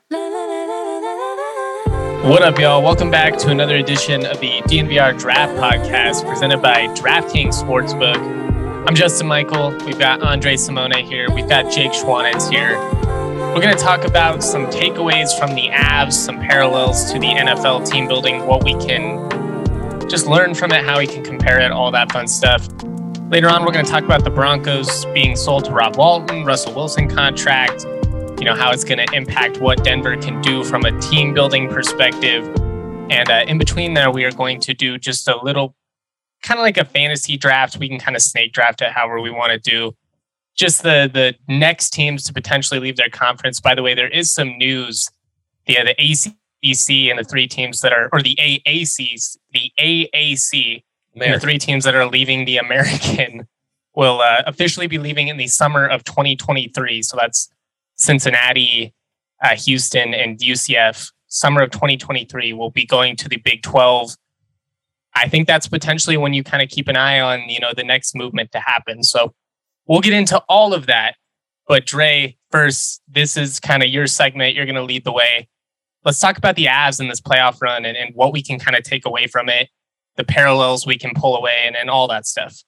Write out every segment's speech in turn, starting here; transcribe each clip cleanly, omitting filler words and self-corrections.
What up, y'all? Welcome back to another edition of the DNVR Draft Podcast presented by DraftKings Sportsbook. I'm Justin Michael. We've got Andre Simone here. We've got Jake Schwanitz here. We're going to talk about some takeaways from the Avs, some parallels to the NFL team building, what we can just learn from it, how we can compare it, all that fun stuff. Later on, we're going to talk about the Broncos being sold to Rob Walton, Russell Wilson contract, how it's going to impact what Denver can do from a team building perspective. And in between there, we are going to do just a little kind of like a fantasy draft. We can kind of snake draft it however we want to do. Just the next teams to potentially leave their conference. By the way, there is some news. The ACC and the three teams that are, or the AAC, and the three teams that are leaving the American will officially be leaving in the summer of 2023. So that's Cincinnati, Houston, and UCF. Summer of 2023 will be going to the Big 12. I think that's potentially when you kind of keep an eye on, the next movement to happen. So we'll get into all of that. But Dre, first, this is kind of your segment. You're going to lead the way. Let's talk about the Avs in this playoff run and what we can kind of take away from it, the parallels we can pull away and all that stuff.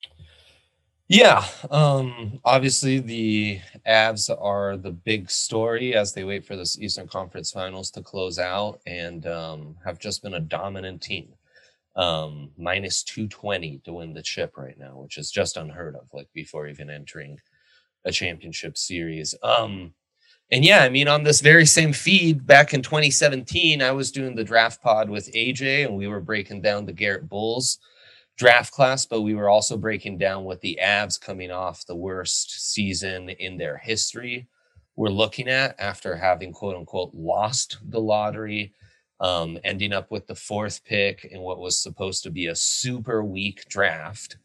Yeah, obviously the Avs are the big story as they wait for this Eastern Conference Finals to close out and have just been a dominant team. Minus 220 to win the chip right now, which is just unheard of, like before even entering a championship series. On this very same feed back in 2017, I was doing the draft pod with AJ and we were breaking down the Garrett Bulls draft class, but we were also breaking down what the Avs coming off the worst season in their history were looking at after having quote unquote lost the lottery, ending up with the fourth pick in what was supposed to be a super weak draft.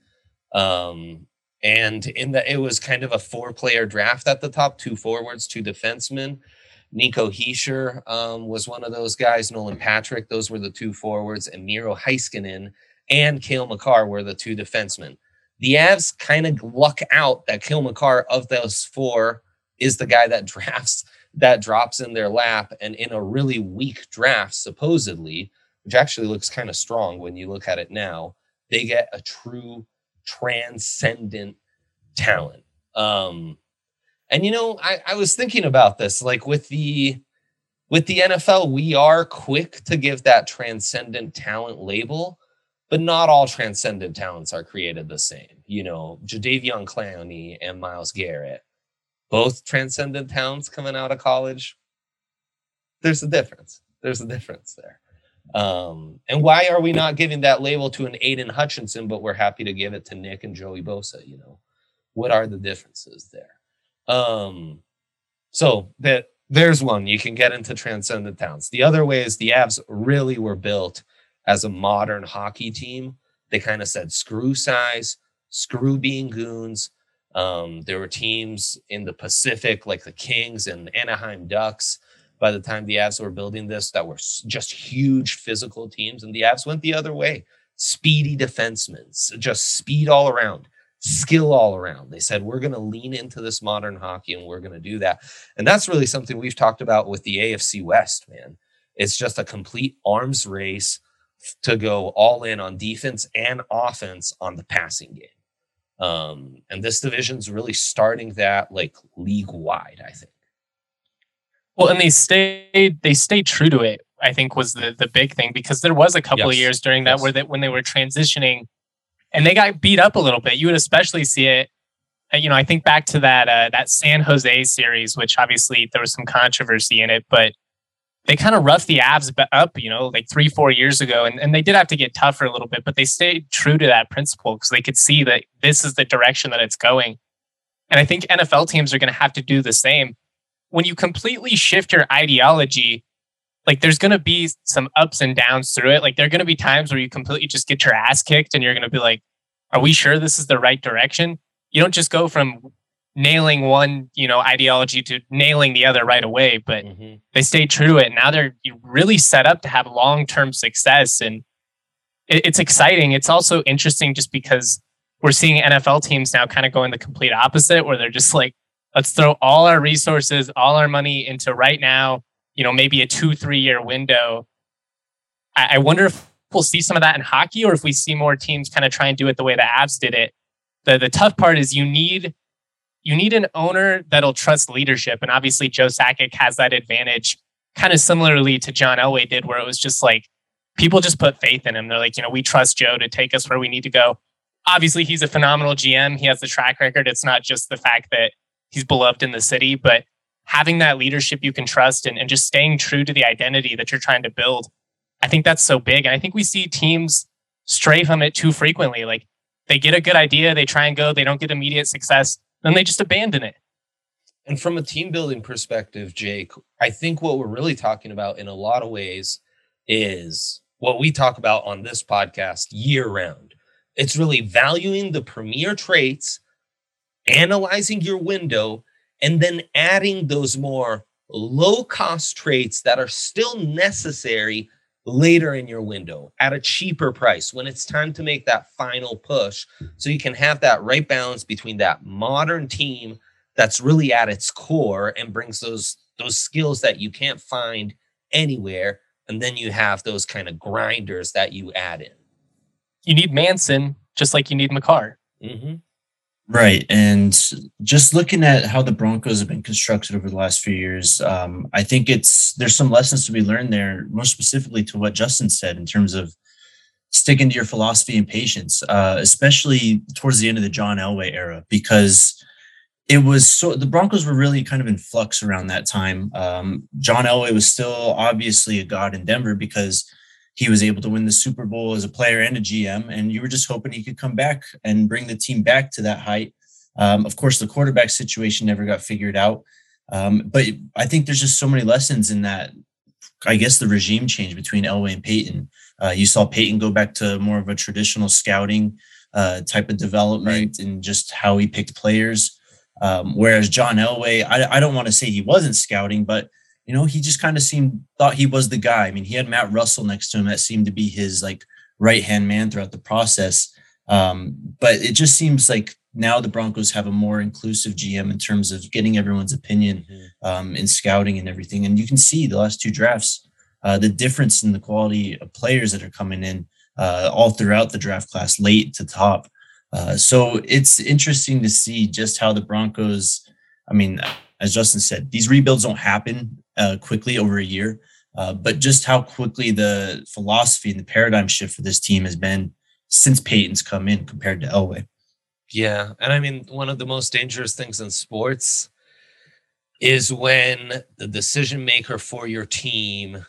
It was kind of a 4-player draft at the top, 2 forwards, 2 defensemen. Nico Hischier was one of those guys, Nolan Patrick, those were the 2 forwards, and Miro Heiskanen and Cale Makar were the 2 defensemen. The Avs kind of luck out that Cale Makar of those 4 is the guy that drops in their lap. And in a really weak draft, supposedly, which actually looks kind of strong when you look at it now, they get a true transcendent talent. I was thinking about this, like with the NFL, we are quick to give that transcendent talent label, but not all transcendent talents are created the same. Jadeveon Clowney and Myles Garrett, both transcendent talents coming out of college. There's a difference. There's a difference there. And why are we not giving that label to an Aiden Hutchinson, but we're happy to give it to Nick and Joey Bosa? What are the differences there? So there's one. You can get into transcendent talents. The other way is the Avs really were built as a modern hockey team. They kind of said, screw size, screw being goons. There were teams in the Pacific like the Kings and Anaheim Ducks by the time the Avs were building this that were just huge physical teams. And the Avs went the other way. Speedy defensemen, just speed all around, skill all around. They said, we're going to lean into this modern hockey and we're going to do that. And that's really something we've talked about with the AFC West, man. It's just a complete arms race to go all in on defense and offense on the passing game. And this division's really starting that like league wide, I think. Well, and they stayed true to it, I think was the big thing, because there was a couple of years during that when they were transitioning and they got beat up a little bit. You would especially see it. I think back to that San Jose series, which obviously there was some controversy in it, but they kind of roughed the Avs up, like 3-4 years ago. And they did have to get tougher a little bit, but they stayed true to that principle because they could see that this is the direction that it's going. And I think NFL teams are going to have to do the same. When you completely shift your ideology, like there's going to be some ups and downs through it. Like there are going to be times where you completely just get your ass kicked and you're going to be like, are we sure this is the right direction? You don't just go from nailing one, ideology to nailing the other right away, but they stayed true to it. Now they're really set up to have long-term success. And it's exciting. It's also interesting just because we're seeing NFL teams now kind of going the complete opposite, where they're just like, let's throw all our resources, all our money into right now, maybe a 2-3 year window. I wonder if we'll see some of that in hockey, or if we see more teams kind of try and do it the way the Avs did it. The tough part is you need an owner that'll trust leadership. And obviously Joe Sakic has that advantage, kind of similarly to John Elway did, where it was just like, people just put faith in him. They're like, we trust Joe to take us where we need to go. Obviously, he's a phenomenal GM. He has the track record. It's not just the fact that he's beloved in the city, but having that leadership you can trust and just staying true to the identity that you're trying to build. I think that's so big. And I think we see teams stray from it too frequently. Like, they get a good idea, they try and go, they don't get immediate success, then they just abandon it. And from a team building perspective, Jake, I think what we're really talking about in a lot of ways is what we talk about on this podcast year round. It's really valuing the premier traits, analyzing your window, and then adding those more low-cost traits that are still necessary later in your window at a cheaper price when it's time to make that final push, so you can have that right balance between that modern team that's really at its core and brings those skills that you can't find anywhere, and then you have those kind of grinders that you add in. You need Manson just like you need Makar. Mm-hmm. Right. And just looking at how the Broncos have been constructed over the last few years, I think there's some lessons to be learned there, more specifically to what Justin said in terms of sticking to your philosophy and patience, especially towards the end of the John Elway era, because the Broncos were really kind of in flux around that time. John Elway was still obviously a god in Denver because he was able to win the Super Bowl as a player and a GM, and you were just hoping he could come back and bring the team back to that height. Of course, the quarterback situation never got figured out. But I think there's just so many lessons in that, I guess, the regime change between Elway and Payton. You saw Payton go back to more of a traditional scouting type of development, right, and just how he picked players. Whereas John Elway, I don't want to say he wasn't scouting, but he just kind of thought he was the guy. I mean, he had Matt Russell next to him that seemed to be his like right-hand man throughout the process. But it just seems like now the Broncos have a more inclusive GM in terms of getting everyone's opinion in scouting and everything. And you can see the last two drafts, the difference in the quality of players that are coming in all throughout the draft class, late to top. So it's interesting to see just how the Broncos, I mean, as Justin said, these rebuilds don't happen quickly over a year, but just how quickly the philosophy and the paradigm shift for this team has been since Payton's come in compared to Elway. Yeah. And I mean, one of the most dangerous things in sports is when the decision maker for your team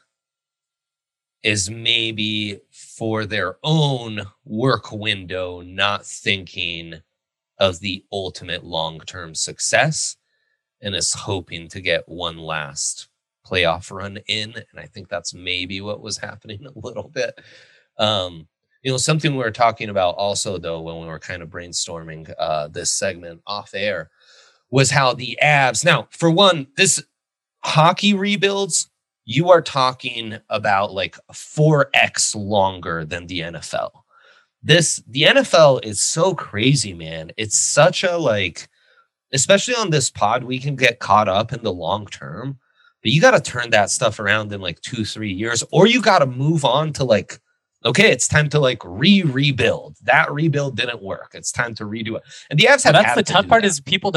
is maybe for their own work window, not thinking of the ultimate long-term success, and is hoping to get one last playoff run in. And I think that's maybe what was happening a little bit. Something we were talking about also, though, when we were kind of brainstorming this segment off air, was how the Avs, now, for one, this hockey rebuilds, you are talking about like 4x longer than the NFL. The NFL is so crazy, man. It's such a especially on this pod, we can get caught up in the long term, but you got to turn that stuff around in 2-3 years, or you got to move on to okay, it's time to rebuild. That rebuild didn't work. It's time to redo it. And the Avs have. That's the tough part, is people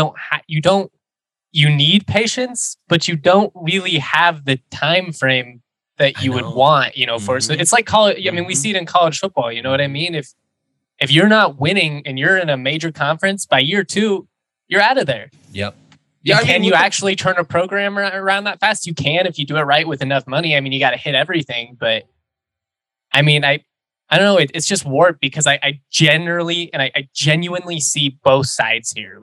you need patience, but you don't really have the time frame that you would want, for. So it's like college. I mean, we see it in college football. You know what I mean? If you're not winning and you're in a major conference, by year 2, you're out of there. Yep. Yeah. Can you actually turn a program around that fast? You can, if you do it right with enough money. I mean, you got to hit everything, but I mean, I don't know. It's just warped because I genuinely see both sides here.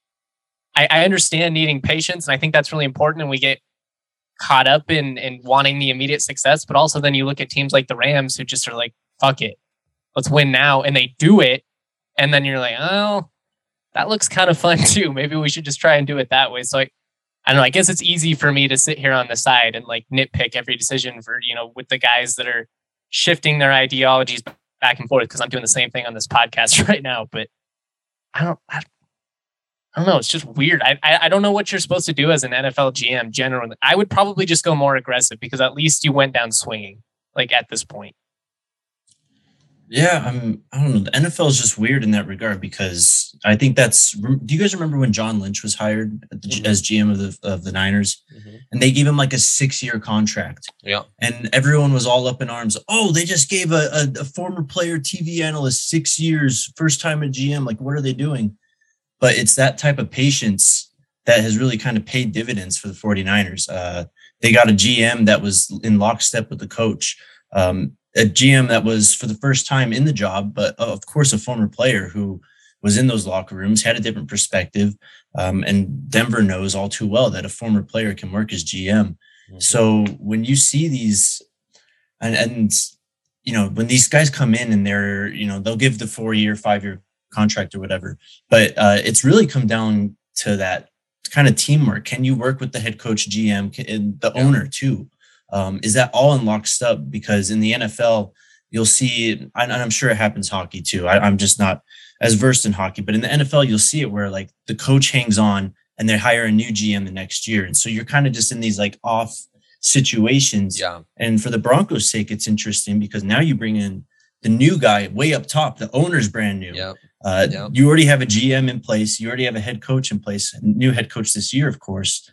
I understand needing patience, and I think that's really important. And we get caught up in wanting the immediate success, but also then you look at teams like the Rams who just are like, fuck it, let's win now. And they do it. And then you're like, oh, that looks kind of fun too. Maybe we should just try and do it that way. So I don't know. I guess it's easy for me to sit here on the side and nitpick every decision for, with the guys that are shifting their ideologies back and forth, because I'm doing the same thing on this podcast right now. But I I don't know. It's just weird. I don't know what you're supposed to do as an NFL GM generally. I would probably just go more aggressive because at least you went down swinging, like at this point. Yeah, I don't know. The NFL is just weird in that regard because I think do you guys remember when John Lynch was hired as GM of the Niners, and they gave him like a 6-year contract? Yeah, and everyone was all up in arms. Oh, they just gave a former player TV analyst 6 years, first time at GM. Like, what are they doing? But it's that type of patience that has really kind of paid dividends for the 49ers. They got a GM that was in lockstep with the coach. A GM that was for the first time in the job, but of course, a former player who was in those locker rooms, had a different perspective. And Denver knows all too well that a former player can work as GM. So when you see these and when these guys come in and they're, they'll give the 4-year, 5-year contract or whatever, but it's really come down to that kind of teamwork. Can you work with the head coach, GM, and the owner too? Is that all in lockstep? Because in the NFL, you'll see, and I'm sure it happens hockey too. I'm just not as versed in hockey, but in the NFL, you'll see it where like the coach hangs on and they hire a new GM the next year. And so you're kind of just in these like off situations. Yeah. And for the Broncos' sake, it's interesting because now you bring in the new guy way up top. The owner's brand new. You already have a GM in place. You already have a head coach in place, a new head coach this year, of course.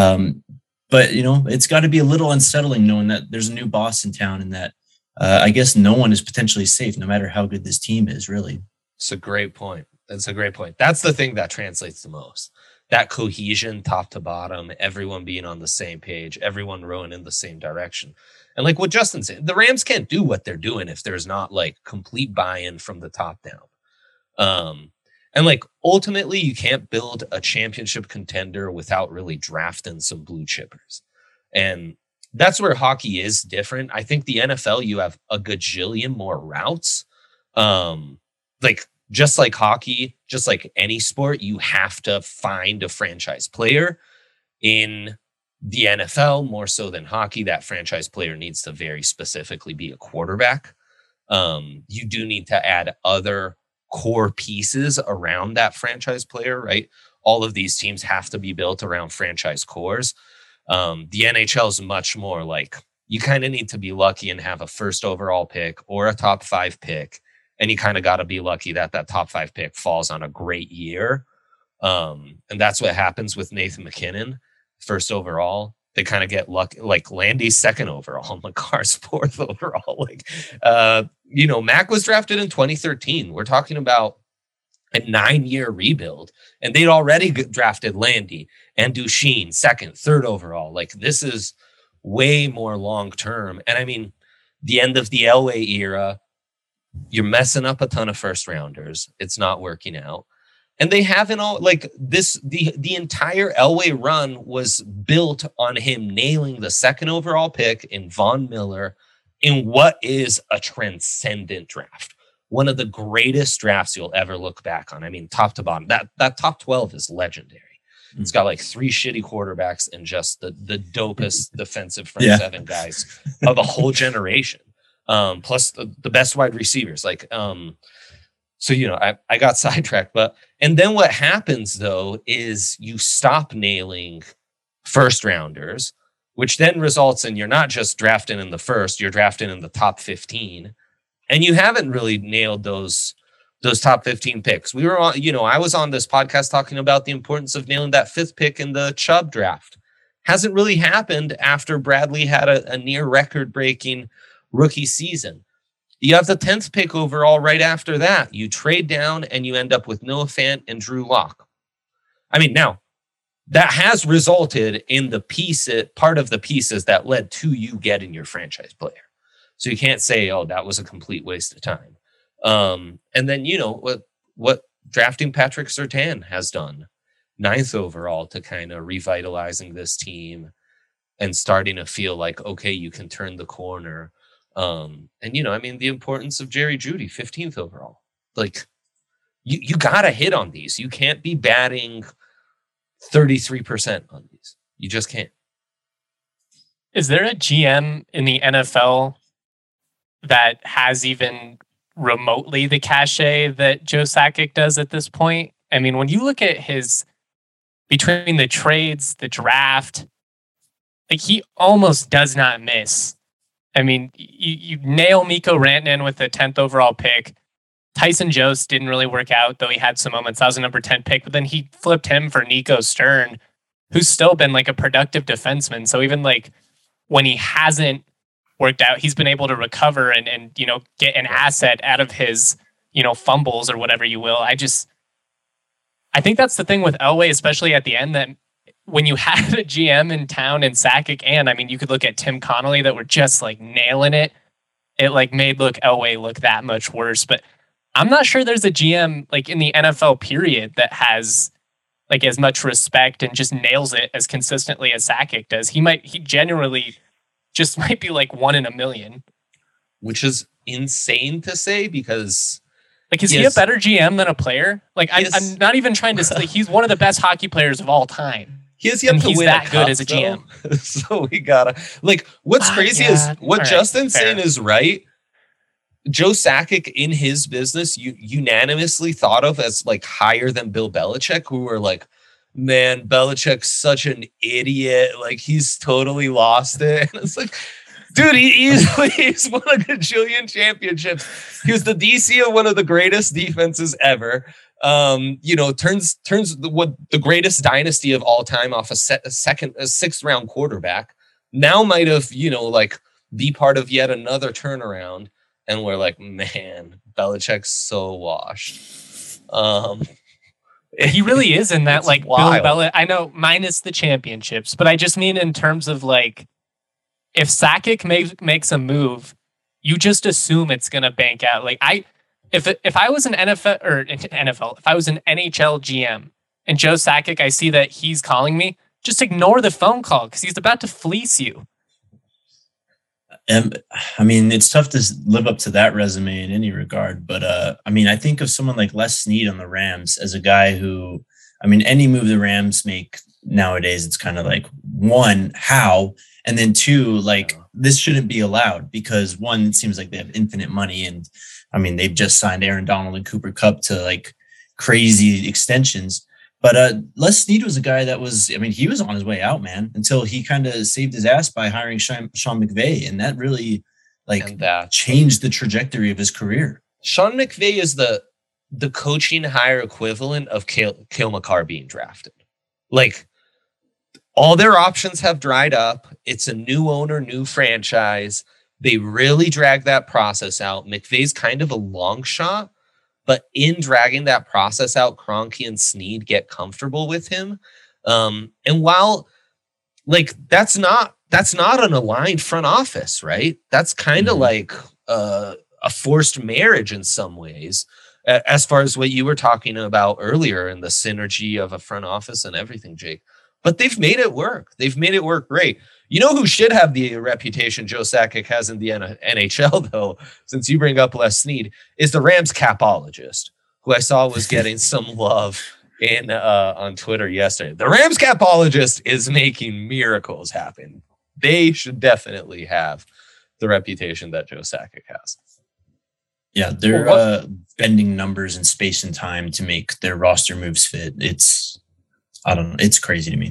But, it's got to be a little unsettling knowing that there's a new boss in town and that I guess no one is potentially safe, no matter how good this team is, really. It's a great point. That's the thing that translates the most. That cohesion, top to bottom, everyone being on the same page, everyone rowing in the same direction. And like what Justin said, the Rams can't do what they're doing if there's not like complete buy-in from the top down. And like ultimately, you can't build a championship contender without really drafting some blue chippers. And that's where hockey is different. I think the NFL, you have a gajillion more routes. Just like hockey, just like any sport, you have to find a franchise player. In the NFL, more so than hockey, that franchise player needs to very specifically be a quarterback. You do need to add other core pieces around that franchise player, right? All of these teams have to be built around franchise cores. The NHL is much more like you kind of need to be lucky and have a first overall pick or a top 5 pick. And you kind of got to be lucky that top 5 pick falls on a great year. And that's what happens with Nathan McKinnon, first overall. They kind of get lucky, like Landy's second overall, McCarr's 4th overall. Mac was drafted in 2013. We're talking about a 9-year rebuild, and they'd already drafted Landy and Duchene 2nd, 3rd overall. Like, this is way more long-term. And I mean, the end of the Elway era, you're messing up a ton of first rounders. It's not working out. And they haven't all like this. The entire Elway run was built on him nailing the 2nd overall pick in Von Miller in what is a transcendent draft. One of the greatest drafts you'll ever look back on. I mean, top to bottom, that top 12 is legendary. Mm-hmm. It's got like 3 shitty quarterbacks and just the dopest defensive front 7 guys of a whole generation. Plus the best wide receivers. So, I got sidetracked, and then what happens though, is you stop nailing first rounders, which then results in you're not just drafting in the first, you're drafting in the top 15, and you haven't really nailed those top 15 picks. We were on, I was on this podcast talking about the importance of nailing that 5th pick in the Chubb draft. Hasn't really happened after Bradley had a near record breaking rookie season. You have the 10th pick overall right after that. You trade down and you end up with Noah Fant and Drew Lock. I mean, now that has resulted in part of the pieces that led to you getting your franchise player. So you can't say, oh, that was a complete waste of time. And then, what drafting Patrick Surtain has done, 9th overall, to kind of revitalizing this team and starting to feel like, okay, you can turn the corner. The importance of Jerry Jeudy, 15th overall. Like, you got to hit on these. You can't be batting 33% on these. You just can't. Is there a GM in the NFL that has even remotely the cachet that Joe Sakic does at this point? I mean, when you look at his, between the trades, the draft, like he almost does not miss. I mean, you nail Mikko Rantanen with the 10th overall pick. Tyson Jost didn't really work out, though he had some moments. That was a number 10 pick, but then he flipped him for Nico Stern, who's still been like a productive defenseman. So even like when he hasn't worked out, he's been able to recover and you know, get an asset out of his, you know, fumbles or whatever you will. I think that's the thing with Elway, especially at the end, that when you had a GM in town in Sakic, and I mean, you could look at Tim Connolly that were just like nailing it. It like made Elway look that much worse. But I'm not sure there's a GM like in the NFL period that has like as much respect and just nails it as consistently as Sakic does. He genuinely just might be like 1 in a million. Which is insane to say because... Like, is he a better GM than a player? Like, I'm not even trying to say he's one of the best hockey players of all time. He has yet to win that good as a GM. So we gotta like. What's crazy is what Justin's saying is right. Joe Sakic in his business, unanimously thought of as like higher than Bill Belichick, who were like, man, Belichick's such an idiot. Like he's totally lost it. And it's like, dude, he's won a gajillion championships. He was the DC of one of the greatest defenses ever. You know, turns the greatest dynasty of all time off a sixth round quarterback. Now might have, you know, like be part of yet another turnaround. And we're like, man, Belichick's so washed. He really is in that, like, Bill Belichick. I know, minus the championships, but I just mean in terms of like, if Sakic makes a move, you just assume it's gonna bank out. Like if I was an NFL, if I was an NHL GM and Joe Sakic, I see that he's calling me, just ignore the phone call because he's about to fleece you. I mean, it's tough to live up to that resume in any regard, but I mean, I think of someone like Les Snead on the Rams as a guy who, I mean, any move the Rams make nowadays, it's kind of like, one, how, and then two, like, this shouldn't be allowed because one, it seems like they have infinite money, and I mean, they've just signed Aaron Donald and Cooper Kupp to like crazy extensions. But Les Snead was a guy that was, I mean, he was on his way out, man, until he kind of saved his ass by hiring Sean McVay. And that really changed the trajectory of his career. Sean McVay is the coaching hire equivalent of Cale Makar being drafted. Like, all their options have dried up. It's a new owner, new franchise. They really drag that process out. McVay's kind of a long shot. But in dragging that process out, Kroenke and Snead get comfortable with him. And while like that's not an aligned front office, right? That's kind of like a forced marriage in some ways, as far as what you were talking about earlier and the synergy of a front office and everything, Jake. But they've made it work. They've made it work great. You know who should have the reputation Joe Sakic has in the NHL, though, since you bring up Les Snead, is the Rams capologist, who I saw was getting some love in on Twitter yesterday. The Rams capologist is making miracles happen. They should definitely have the reputation that Joe Sakic has. Yeah, they're bending numbers in space and time to make their roster moves fit. I don't know. It's crazy to me.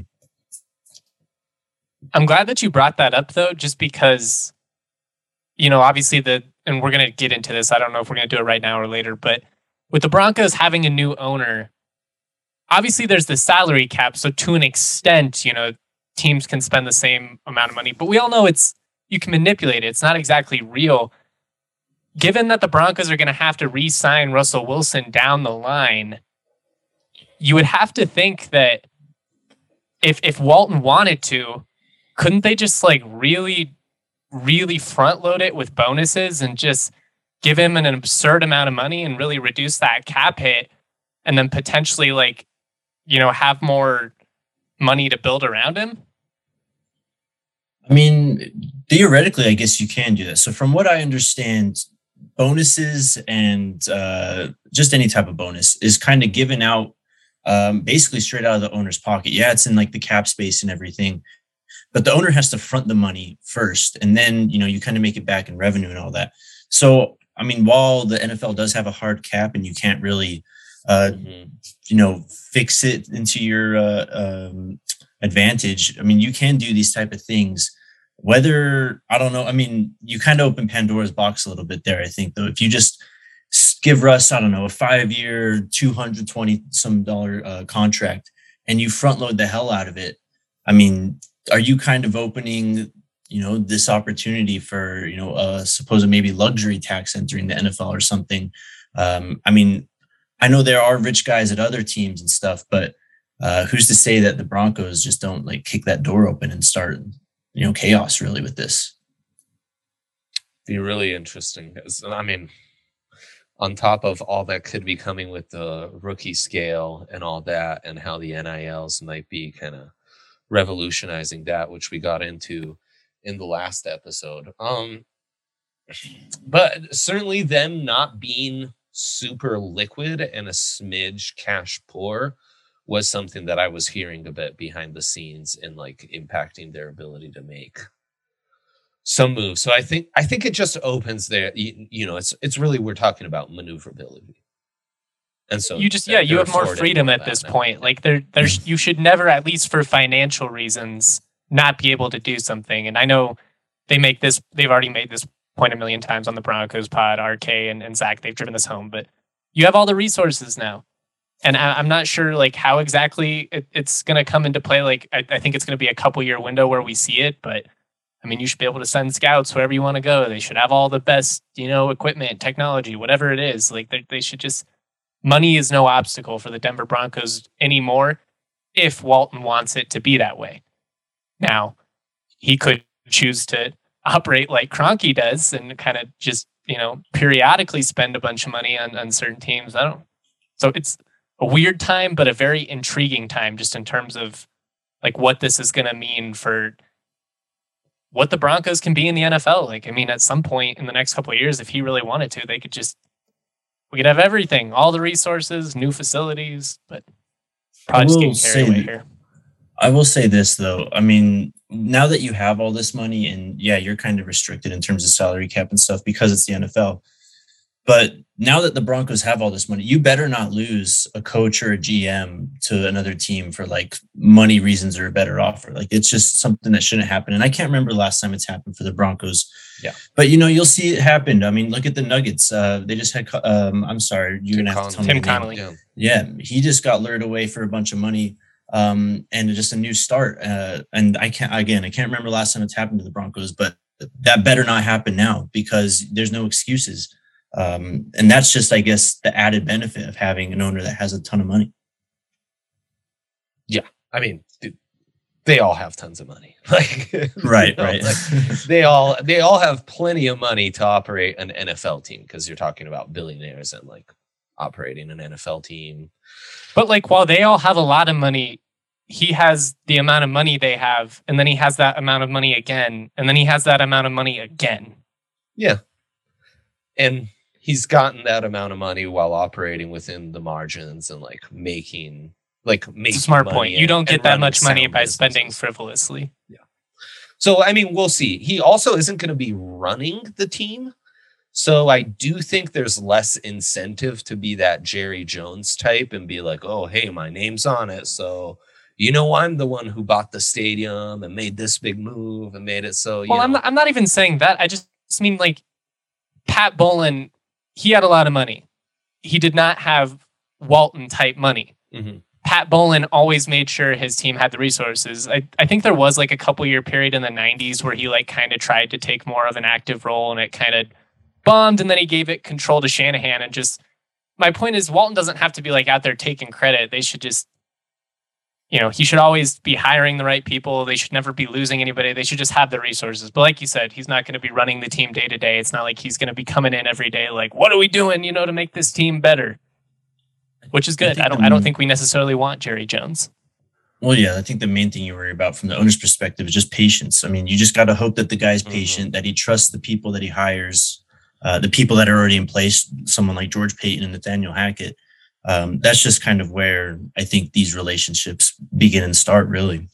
I'm glad that you brought that up, though, just because, you know, obviously and we're going to get into this. I don't know if we're going to do it right now or later, but with the Broncos having a new owner, obviously there's the salary cap. So to an extent, you know, teams can spend the same amount of money, but we all know you can manipulate it. It's not exactly real. Given that the Broncos are going to have to re-sign Russell Wilson down the line, you would have to think that if Walton wanted to, couldn't they just like really, really front load it with bonuses and just give him an absurd amount of money and really reduce that cap hit and then potentially like, you know, have more money to build around him? I mean, theoretically, I guess you can do that. So from what I understand, bonuses and just any type of bonus is kind of given out basically straight out of the owner's pocket. Yeah, it's in like the cap space and everything, but the owner has to front the money first. And then, you know, you kind of make it back in revenue and all that. So, I mean, while the NFL does have a hard cap and you can't really fix it into your advantage. I mean, you can do these type of things. Whether, I don't know, I mean, you kind of open Pandora's box a little bit there, I think, though. If you just give Russ, I don't know, a 5-year, $220 contract, and you front load the hell out of it, I mean, are you kind of opening, this opportunity for, a supposed maybe luxury tax entering the NFL or something? I mean, I know there are rich guys at other teams and stuff, but who's to say that the Broncos just don't like kick that door open and start, chaos really with this? Be really interesting. I mean, on top of all that could be coming with the rookie scale and all that, and how the NILs might be kind of revolutionizing that, which we got into in the last episode. But certainly them not being super liquid and a smidge cash poor was something that I was hearing a bit behind the scenes and like impacting their ability to make some moves. So I think it just opens there. It's really, we're talking about maneuverability. And so you just, you have more freedom at this point. Like there's, you should never, at least for financial reasons, not be able to do something. And I know they've already made this point a million times on the Broncos pod, RK and Zach, they've driven this home, but you have all the resources now. And I'm not sure like how exactly it's going to come into play. Like I think it's going to be a couple year window where we see it, but I mean, you should be able to send scouts wherever you want to go. They should have all the best, equipment, technology, whatever it is. Like they should just, money is no obstacle for the Denver Broncos anymore if Walton wants it to be that way. Now, he could choose to operate like Kroenke does and kind of just, periodically spend a bunch of money on certain teams. So it's a weird time, but a very intriguing time just in terms of like what this is going to mean for what the Broncos can be in the NFL. Like, I mean, at some point in the next couple of years, if he really wanted to, we could have everything, all the resources, new facilities, but probably just getting carried away here. I will say this though. I mean, now that you have all this money and you're kind of restricted in terms of salary cap and stuff because it's the NFL. But now that the Broncos have all this money, you better not lose a coach or a GM to another team for like money reasons or a better offer. Like it's just something that shouldn't happen. And I can't remember the last time it's happened for the Broncos. Yeah. But you'll see it happen. I mean, look at the Nuggets. They just had I'm sorry, you're gonna have to tell me. Tim Connolly. Yeah, he just got lured away for a bunch of money. And just a new start. And I can't remember last time it's happened to the Broncos, but that better not happen now because there's no excuses. And that's just, I guess, the added benefit of having an owner that has a ton of money. Yeah. I mean, they all have tons of money. Like, right. Like, they all have plenty of money to operate an NFL team because you're talking about billionaires and like operating an NFL team. But like, while they all have a lot of money, he has the amount of money they have, and then he has that amount of money again, and then he has that amount of money again. Yeah. And he's gotten that amount of money while operating within the margins and making it's a smart point. You don't get that much money by spending frivolously. Yeah. So, I mean, we'll see. He also isn't going to be running the team. So I do think there's less incentive to be that Jerry Jones type and be like, oh, hey, my name's on it. So, I'm the one who bought the stadium and made this big move and made it so, I'm not even saying that. I just mean like Pat Bowlen, he had a lot of money. He did not have Walton type money. Mm-hmm. Pat Bowlen always made sure his team had the resources. I think there was like a couple year period in the 90s where he kind of tried to take more of an active role and it kind of bombed, and then he gave it control to Shanahan. And just, my point is, Walton doesn't have to be out there taking credit. They should just, he should always be hiring the right people. They should never be losing anybody. They should just have the resources. But like you said, he's not going to be running the team day to day. It's not like he's going to be coming in every day like, what are we doing, to make this team better? Which is good. I don't think we necessarily want Jerry Jones. Well, yeah, I think the main thing you worry about from the owner's perspective is just patience. I mean, you just got to hope that the guy's patient, that he trusts the people that he hires, the people that are already in place, someone like George Paton and Nathaniel Hackett. That's just kind of where I think these relationships begin and start, really.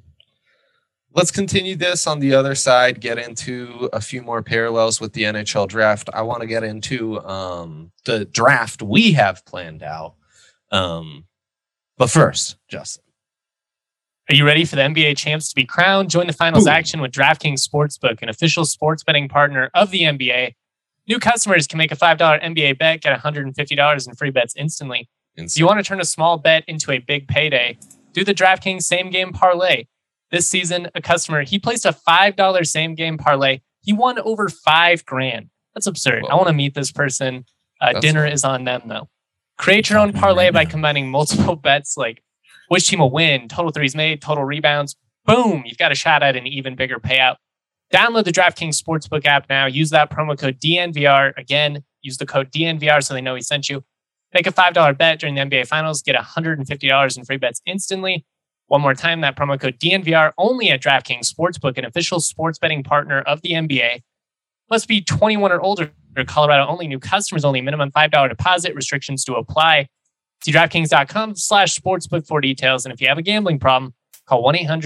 Let's continue this on the other side, get into a few more parallels with the NHL draft. I want to get into the draft we have planned out But first, Justin. Are you ready for the NBA champs to be crowned? Join the finals action with DraftKings Sportsbook, an official sports betting partner of the NBA. New customers can make a $5 NBA bet, get $150 in free bets instantly. If you want to turn a small bet into a big payday, do the DraftKings Same Game Parlay. This season, a customer, he placed a $5 Same Game Parlay. He won over $5,000. That's absurd. Whoa. I want to meet this person. Dinner is on them, though. Create your own parlay by combining multiple bets like which team will win, total threes made, total rebounds. Boom, you've got a shot at an even bigger payout. Download the DraftKings Sportsbook app now. Use that promo code DNVR. Again, use the code DNVR so they know we sent you. Make a $5 bet during the NBA Finals. Get $150 in free bets instantly. One more time, that promo code DNVR only at DraftKings Sportsbook, an official sports betting partner of the NBA. Must be 21 or older. Colorado only. New customers only. Minimum $5 deposit. Restrictions to apply. See DraftKings.com/sportsbook for details. And if you have a gambling problem, call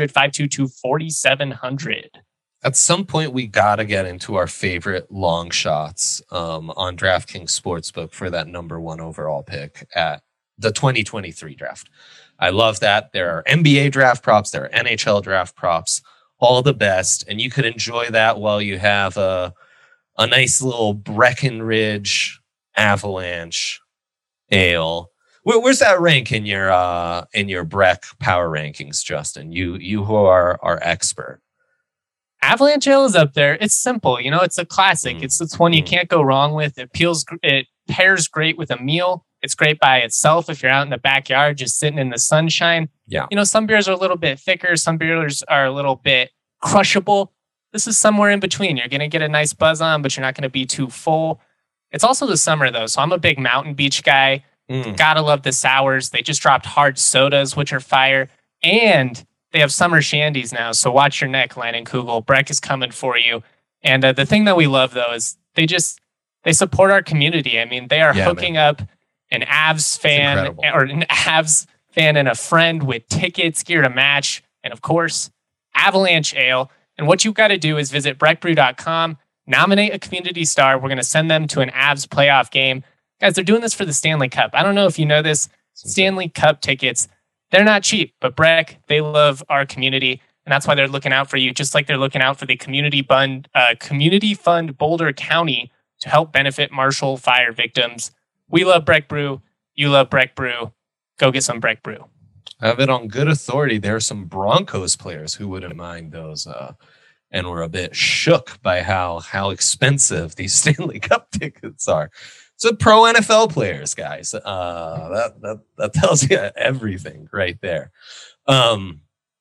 1-800-522-4700. At some point, we got to get into our favorite long shots on DraftKings Sportsbook for that number 1 overall pick at the 2023 draft. I love that. There are NBA draft props. There are NHL draft props. All the best. And you could enjoy that while you have a nice little Breckenridge Avalanche ale. Where's that rank in your Breck power rankings, Justin? You who are our expert. Avalanche Ale is up there. It's simple. You know, it's a classic. It's one you can't go wrong with. It pairs great with a meal. It's great by itself if you're out in the backyard just sitting in the sunshine. Yeah. You know, some beers are a little bit thicker. Some beers are a little bit crushable. This is somewhere in between. You're going to get a nice buzz on, but you're not going to be too full. It's also the summer, though, so I'm a big Mountain Beach guy. Gotta love the sours. They just dropped hard sodas, which are fire. And they have summer shandies now, so watch your neck, Leinenkugel. Breck is coming for you. And the thing that we love, though, is they support our community. I mean, they are hooking up an Avs fan and a friend with tickets, gear to match, and of course, Avalanche Ale. And what you've got to do is visit breckbrew.com, nominate a community star. We're going to send them to an Avs playoff game. Guys, they're doing this for the Stanley Cup. I don't know if you know this. Stanley Cup tickets, they're not cheap, but Breck, they love our community, and that's why they're looking out for you, just like they're looking out for the Community Fund Boulder County to help benefit Marshall fire victims. We love Breck Brew. You love Breck Brew. Go get some Breck Brew. I have it on good authority. There are some Broncos players who wouldn't mind those, and were a bit shook by how expensive these Stanley Cup tickets are. So pro NFL players, guys. That tells you everything right there. You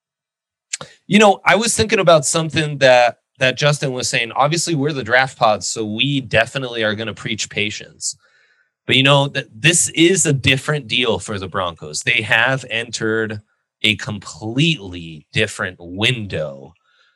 know, I was thinking about something that Justin was saying. Obviously, we're the draft pods, so we definitely are going to preach patience. But you know that this is a different deal for the Broncos. They have entered a completely different window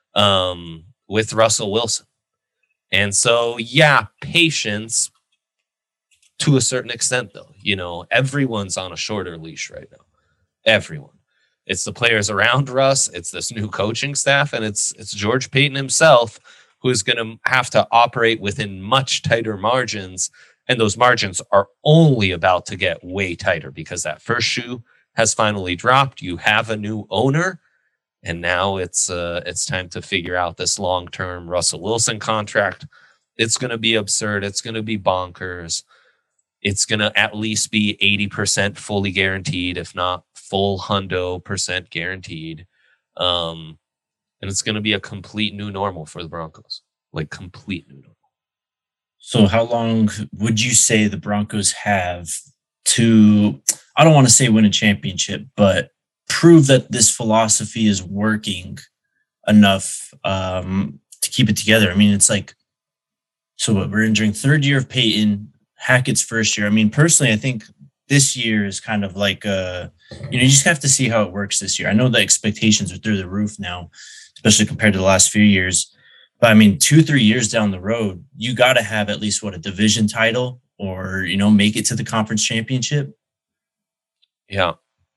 with Russell Wilson, and so patience. To a certain extent, though, you know, everyone's on a shorter leash right now. Everyone. It's the players around Russ. It's this new coaching staff. And it's George Payton himself who's going to have to operate within much tighter margins. And those margins are only about to get way tighter because that first shoe has finally dropped. You have a new owner. And now it's time to figure out this long-term Russell Wilson contract. It's going to be absurd. It's going to be bonkers. It's going to at least be 80% fully guaranteed, if not full %, guaranteed. And it's going to be a complete new normal for the Broncos, like complete new normal. So how long would you say the Broncos have to, I don't want to say win a championship, but prove that this philosophy is working enough to keep it together? I mean, it's like, so what, we're entering third year of Peyton, Hackett's first year. I mean, personally, I think this year is kind of like, you just have to see how it works this year. I know the expectations are through the roof now, especially compared to the last few years. But I mean, 2-3 years down the road, you got to have at least a division title or, make it to the conference championship. Yeah.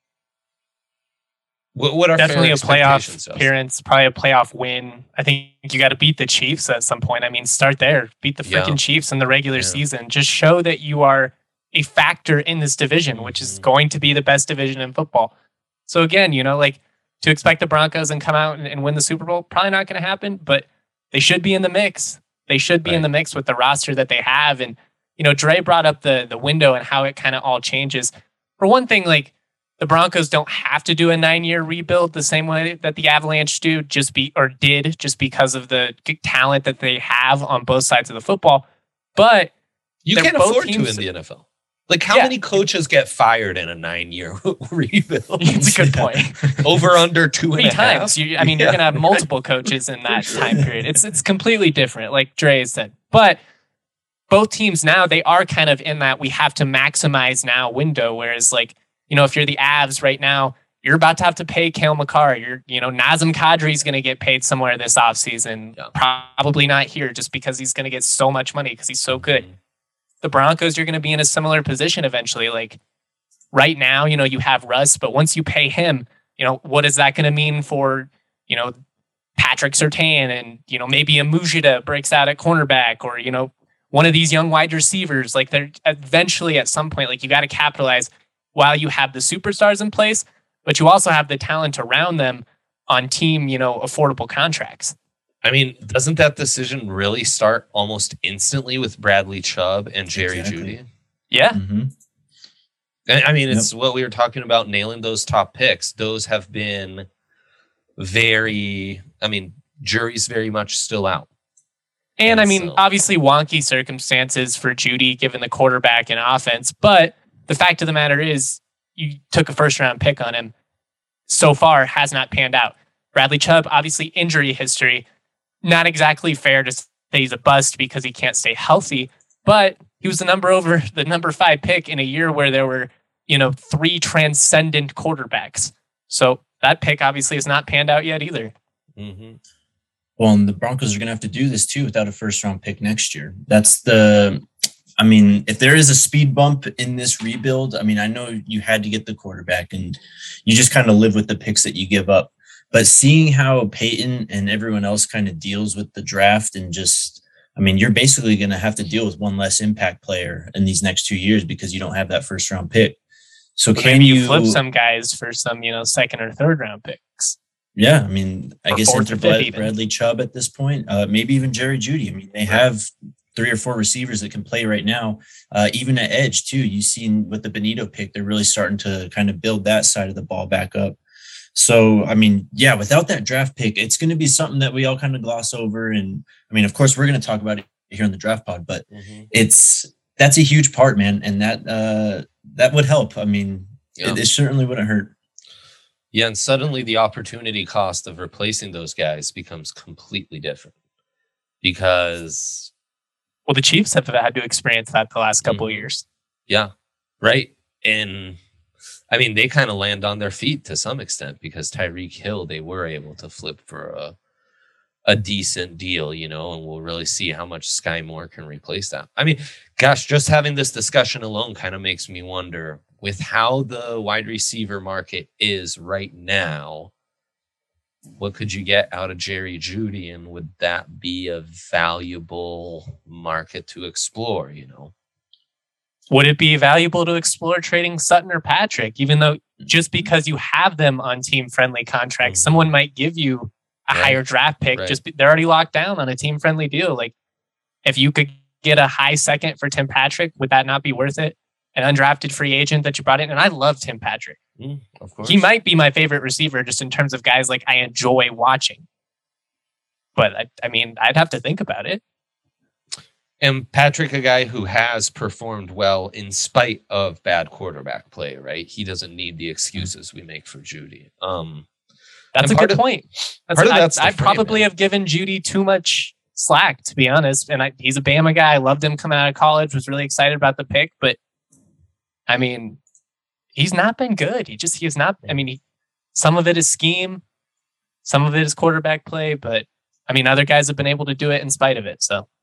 What are definitely a playoff appearance, probably a playoff win. I think you got to beat the Chiefs at some point. I mean, start there, beat the freaking Chiefs in the regular season. Just show that you are a factor in this division, which is going to be the best division in football. So again, like to expect the Broncos and come out and win the Super Bowl, probably not going to happen, but they should be in the mix. They should be in the mix with the roster that they have. And, Dre brought up the window and how it kind of all changes. For one thing, like the Broncos don't have to do a 9-year rebuild the same way that the Avalanche did just because of the talent that they have on both sides of the football. But you can't afford to in the NFL. Like, how many coaches get fired in a 9-year rebuild? It's a good point. Over under 2.5 times. You're going to have multiple coaches in that time period. It's completely different, like Dre said. But both teams now, they are kind of in that we have to maximize now window. Whereas, like, if you're the Avs right now, you're about to have to pay Cale Makar. Nazem Kadri is going to get paid somewhere this offseason. Yeah. Probably not here, just because he's going to get so much money because he's so good. The Broncos, you're going to be in a similar position eventually. Like right now, you have Russ, but once you pay him, what is that going to mean for, Patrick Surtain and, maybe a Mujita breaks out at cornerback or, one of these young wide receivers. Like they're eventually at some point, like you got to capitalize while you have the superstars in place, but you also have the talent around them on team, affordable contracts. I mean, doesn't that decision really start almost instantly with Bradley Chubb and Jerry Jeudy? Yeah. Mm-hmm. I mean, it's what we were talking about, nailing those top picks. Those have been jury's very much still out. And obviously wonky circumstances for Jeudy given the quarterback and offense. But the fact of the matter is you took a first round pick on him. So far has not panned out. Bradley Chubb, obviously injury history. Not exactly fair to say he's a bust because he can't stay healthy, but he was the number 5 pick in a year where there were, 3 transcendent quarterbacks. So that pick obviously has not panned out yet either. Mm-hmm. Well, and the Broncos are going to have to do this too without a first round pick next year. If there is a speed bump in this rebuild, I know you had to get the quarterback and you just kind of live with the picks that you give up. But seeing how Peyton and everyone else kind of deals with the draft and you're basically going to have to deal with one less impact player in these next 2 years because you don't have that first round pick. So maybe you flip some guys for some, second or third round picks? Yeah. I guess enter Bradley Chubb at this point, maybe even Jerry Jeudy. They have 3 or 4 receivers that can play right now, even at edge too. You've seen with the Benito pick, they're really starting to kind of build that side of the ball back up. So, without that draft pick, it's going to be something that we all kind of gloss over. And of course, we're going to talk about it here on the Draft Pod, but that's a huge part, man. And that would help. It certainly wouldn't hurt. Yeah. And suddenly the opportunity cost of replacing those guys becomes completely different because. Well, the Chiefs have had to experience that the last couple of years. Yeah. Right. And they kind of land on their feet to some extent because Tyreek Hill, they were able to flip for a decent deal, and we'll really see how much Sky Moore can replace that. Just having this discussion alone kind of makes me wonder with how the wide receiver market is right now, what could you get out of Jerry Jeudy, and would that be a valuable market to explore, Would it be valuable to explore trading Sutton or Patrick, even though just because you have them on team-friendly contracts, someone might give you a higher draft pick. Right. They're already locked down on a team-friendly deal. Like if you could get a high second for Tim Patrick, would that not be worth it? An undrafted free agent that you brought in. And I love Tim Patrick. Of course. He might be my favorite receiver just in terms of guys like I enjoy watching. But I'd have to think about it. And Patrick, a guy who has performed well in spite of bad quarterback play, right? He doesn't need the excuses we make for Jeudy. That's a good point. I probably have given Jeudy too much slack, to be honest. And he's a Bama guy. I loved him coming out of college. Was really excited about the pick. But, he's not been good. He has not. Some of it is scheme. Some of it is quarterback play. But, other guys have been able to do it in spite of it. So.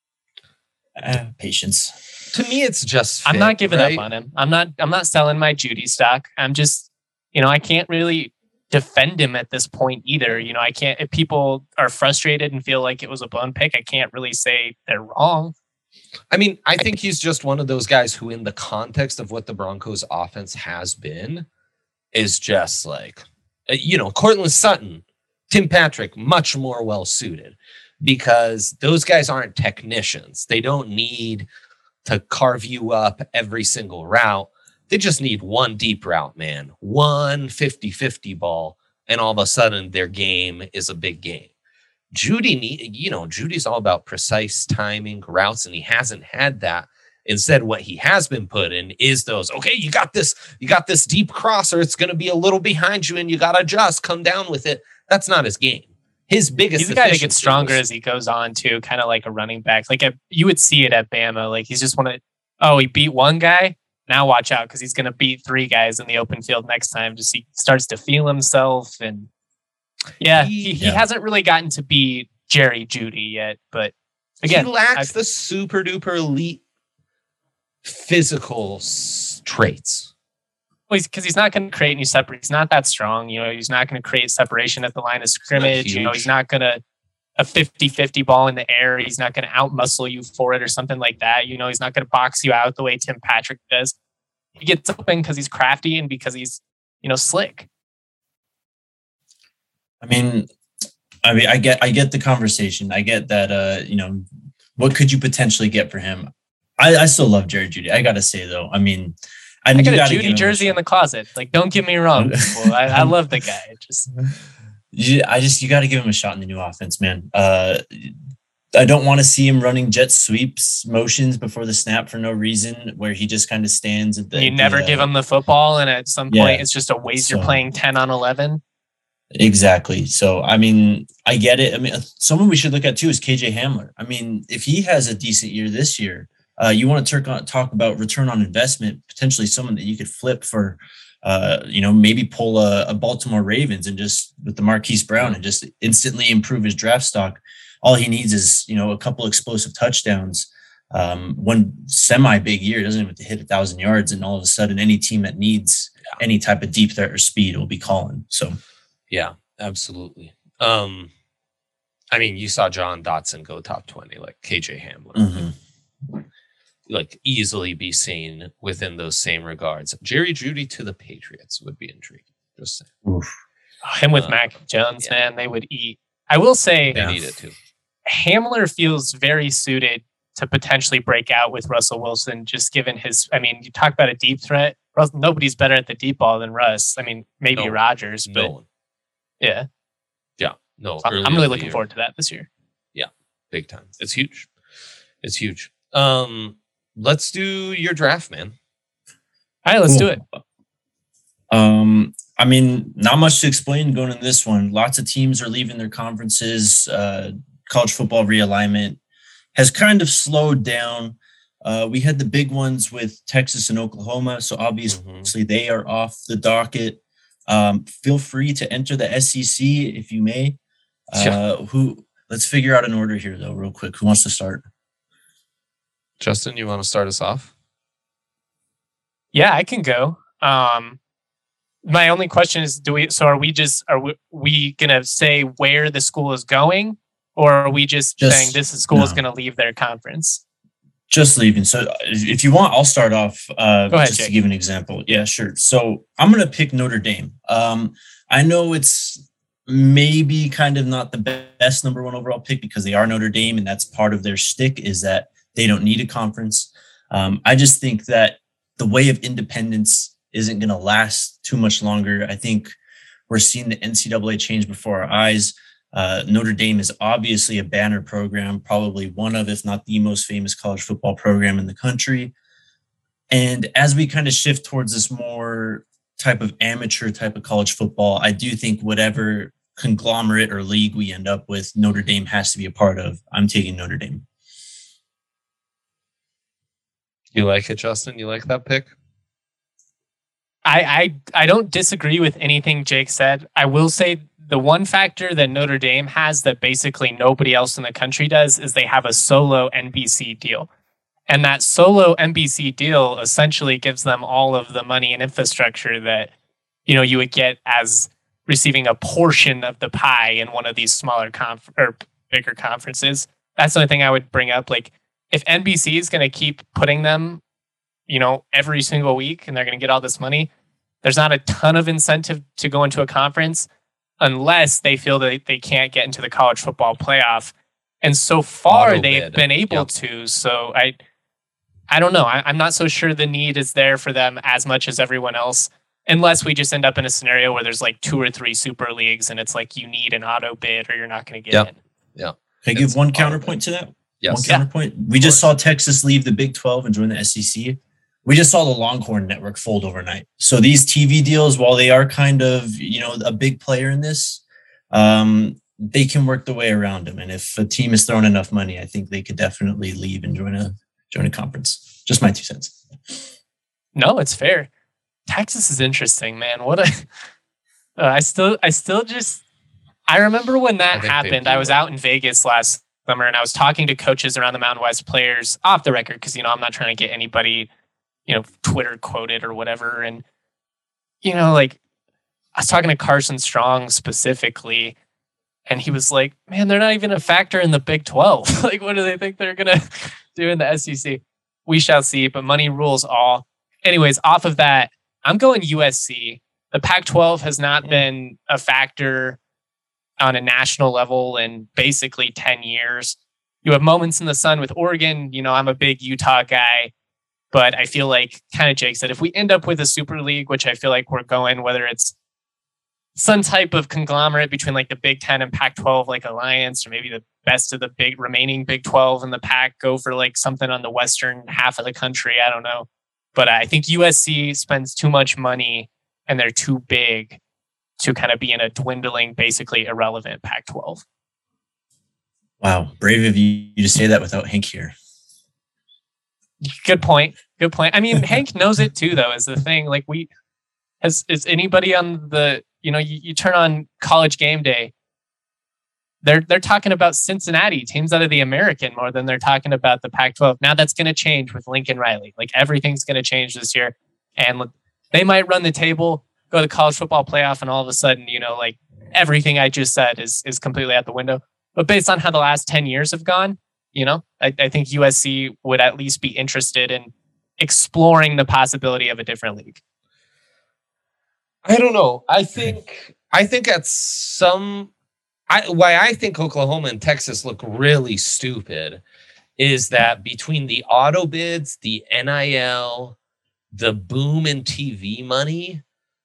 Patience. To me, it's just fit, I'm not giving right? up on him. I'm not selling my Jeudy stock. I'm just, I can't really defend him at this point either. I can't, if people are frustrated and feel like it was a blown pick, I can't really say they're wrong. I mean, I think he's just one of those guys who, in the context of what the Broncos offense has been, is just like, Courtland Sutton, Tim Patrick, much more well suited, because those guys aren't technicians. They don't need to carve you up every single route. They just need one deep route, man, one 50-50 ball, and all of a sudden their game is a big game. Judy's all about precise timing routes, and he hasn't had that. Instead, what he has been put in is those, okay, you got this deep crosser. It's going to be a little behind you and you got to just come down with it. That's not his game. His biggest, he's the guy that gets stronger as he goes on too, kind of like a running back. Like you would see it at Bama. Like he's just he beat one guy. Now watch out, because he's going to beat three guys in the open field next time. Just he starts to feel himself, and he hasn't really gotten to be Jerry Jeudy yet. But again, he lacks the super duper elite physical traits. Well, because he's not going to create any separate. He's not that strong. He's not going to create separation at the line of scrimmage. He's not going to a 50-50 ball in the air. He's not going to out-muscle you for it or something like that. He's not going to box you out the way Tim Patrick does. He gets open because he's crafty and because he's, slick. I mean, I get the conversation. I get that, what could you potentially get for him? I still love Jerry Jeudy. I got to say, though, I mean, I got a Jeudy jersey in the closet. Like, don't get me wrong. I love the guy. You got to give him a shot in the new offense, man. I don't want to see him running jet sweeps motions before the snap for no reason, where he just kind of stands at the. You never give him the football, and at some point, it's just a waste. You're playing 10 on 11. Exactly. So, I mean, I get it. I mean, someone we should look at too is KJ Hamler. I mean, if he has a decent year this year, you want to talk about return on investment, potentially someone that you could flip for, maybe pull a Baltimore Ravens and just with the Marquise Brown and just instantly improve his draft stock. All he needs is, a couple explosive touchdowns, one semi-big year, doesn't even have to hit 1,000 yards. And all of a sudden, any team that needs any type of deep threat or speed will be calling. So, yeah, absolutely. I mean, you saw John Dotson go top 20, like KJ Hamler. Mm-hmm. Like easily be seen within those same regards. Jerry Jeudy to the Patriots would be intriguing. Just saying. Oof. Him with Mac Jones, man, they would eat. I will say they need it too. Hamler feels very suited to potentially break out with Russell Wilson, just given his. I mean, you talk about a deep threat. Nobody's better at the deep ball than Russ. I mean, maybe Rodgers, but yeah. No, so I'm really looking forward to that this year. Yeah, big time. It's huge. Let's do your draft, man. All right, let's do it. I mean, not much to explain going into this one. Lots of teams are leaving their conferences. College football realignment has kind of slowed down. We had the big ones with Texas and Oklahoma, so obviously they are off the docket. Feel free to enter the SEC if you may. Let's figure out an order here, though, real quick. Who wants to start? Justin, you want to start us off? Yeah, I can go. My only question is, are we going to say where the school is going, or are we just saying this school is going to leave their conference? Just leaving. So if you want, I'll start off Go ahead, just Jake. to give an example. Yeah, sure. So I'm going to pick Notre Dame. I know it's maybe kind of not the best number one overall pick because they are Notre Dame, and that's part of their shtick is that they don't need a conference. I just think that the way of independence isn't going to last too much longer. I think we're seeing the NCAA change before our eyes. Notre Dame is obviously a banner program, probably one of, if not the most famous college football program in the country. And as we kind of shift towards this more type of amateur type of college football, I do think whatever conglomerate or league we end up with, Notre Dame has to be a part of. I'm taking Notre Dame. You like it, Justin? You like that pick? I don't disagree with anything Jake said. I will say the one factor that Notre Dame has that basically nobody else in the country does is they have a solo NBC deal. And that solo NBC deal essentially gives them all of the money and infrastructure that, you would get as receiving a portion of the pie in one of these smaller or bigger conferences. That's the only thing I would bring up. Like, if NBC is going to keep putting them, every single week and they're going to get all this money, there's not a ton of incentive to go into a conference unless they feel that they can't get into the college football playoff. And so far they've been able to. So I don't know. I'm not so sure the need is there for them as much as everyone else, unless we just end up in a scenario where there's like 2 or 3 super leagues and it's like you need an auto bid or you're not going to get in. Yeah. Can I give one counterpoint to that? Yes. One counterpoint. We just saw Texas leave the Big 12 and join the SEC. We just saw the Longhorn Network fold overnight. So these TV deals, while they are kind of, a big player in this, they can work their way around them. And if a team is throwing enough money, I think they could definitely leave and join a conference. Just my 2 cents. No, it's fair. Texas is interesting, man. I remember when that happened. I was out in Vegas last summer and I was talking to coaches around the Mountain West players off the record because, I'm not trying to get anybody, Twitter quoted or whatever. And, I was talking to Carson Strong specifically, and he was like, man, they're not even a factor in the Big 12. Like, what do they think they're going to do in the SEC? We shall see, but money rules all. Anyways, off of that, I'm going USC. The Pac-12 has not been a factor on a national level in basically 10 years. You have moments in the sun with Oregon. I'm a big Utah guy, but I feel like, kind of Jake said, if we end up with a super league, which I feel like we're going, whether it's some type of conglomerate between like the Big 10 and Pac-12, like alliance, or maybe the best of the remaining Big 12 and the Pac go for like something on the western half of the country. I don't know. But I think USC spends too much money and they're too big to kind of be in a dwindling, basically irrelevant Pac-12. Wow. Brave of you to say that without Hank here. Good point. I mean, Hank knows it too, though, is the thing. Like, is anybody on the, you turn on College Game Day, they're talking about Cincinnati, teams out of the American, more than they're talking about the Pac-12. Now that's going to change with Lincoln Riley. Like, everything's going to change this year. And they might run the table, go to the college football playoff, and all of a sudden, like everything I just said is completely out the window. But based on how the last 10 years have gone, I think USC would at least be interested in exploring the possibility of a different league. I don't know. I think at why I think Oklahoma and Texas look really stupid is that between the auto bids, the NIL, the boom in TV money,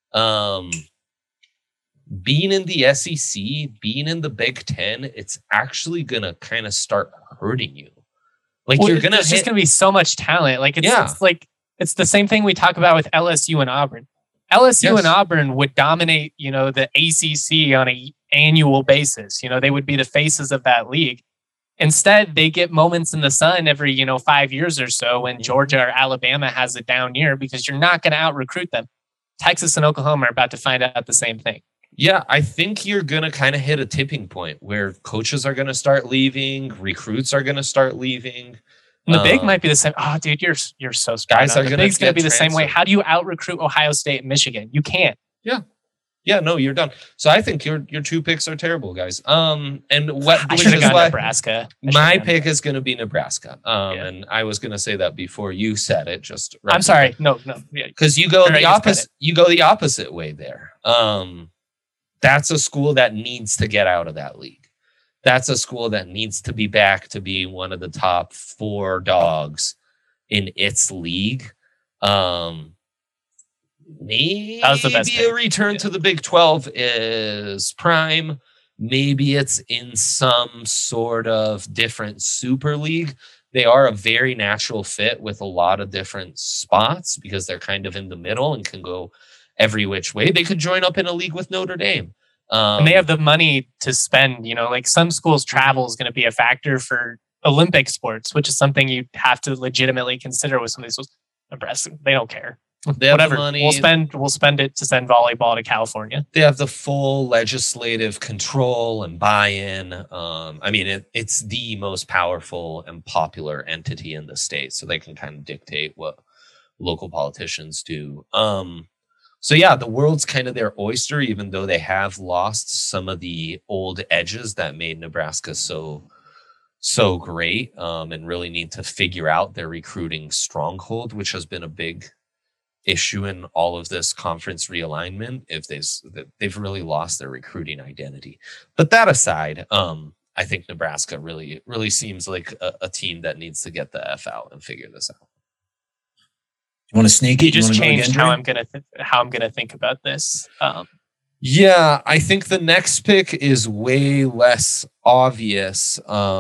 being in the SEC, being in the Big 10, it's actually going to kind of start hurting you. Like, you're going to there's just going to be so much talent. Like, it's the same thing we talk about with LSU and Auburn. LSU and Auburn would dominate, the ACC on an annual basis. They would be the faces of that league. Instead, they get moments in the sun every, 5 years or so when Georgia or Alabama has a down year because you're not going to out-recruit them. Texas and Oklahoma are about to find out the same thing. Yeah, I think you're going to kind of hit a tipping point where coaches are going to start leaving, recruits are going to start leaving. And the Big might be the same. Oh, dude, you're so smart. Guys are the Big's going to be the same way. How do you out-recruit Ohio State and Michigan? You can't. Yeah, no, you're done. So I think your 2 picks are terrible, guys. And what I should have gone Nebraska. My pick is going to be Nebraska. And I was going to say that before you said it. Just right. I'm sorry. No. Because you go the opposite. You go the opposite way there. That's a school that needs to get out of that league. That's a school that needs to be back to be one of the top 4 dogs in its league. Maybe a return to the Big 12 is prime. Maybe it's in some sort of different super league. They are a very natural fit with a lot of different spots because they're kind of in the middle and can go every which way. They could join up in a league with Notre Dame. And they have the money to spend, like some schools travel is going to be a factor for Olympic sports, which is something you have to legitimately consider with some of these schools. Nebraska, they don't care. They have whatever the money. We'll spend it to send volleyball to California. They have the full legislative control and buy-in. I mean, it's the most powerful and popular entity in the state, so they can kind of dictate what local politicians do. So yeah, the world's kind of their oyster, even though they have lost some of the old edges that made Nebraska so so great, and really need to figure out their recruiting stronghold, which has been a big issue in all of this conference realignment. If they've really lost their recruiting identity. But that aside, I think Nebraska really seems like a team that needs to get the F out and figure this out. You want to sneak it? You just changed how I'm gonna think about this. Yeah, I think the next pick is way less obvious.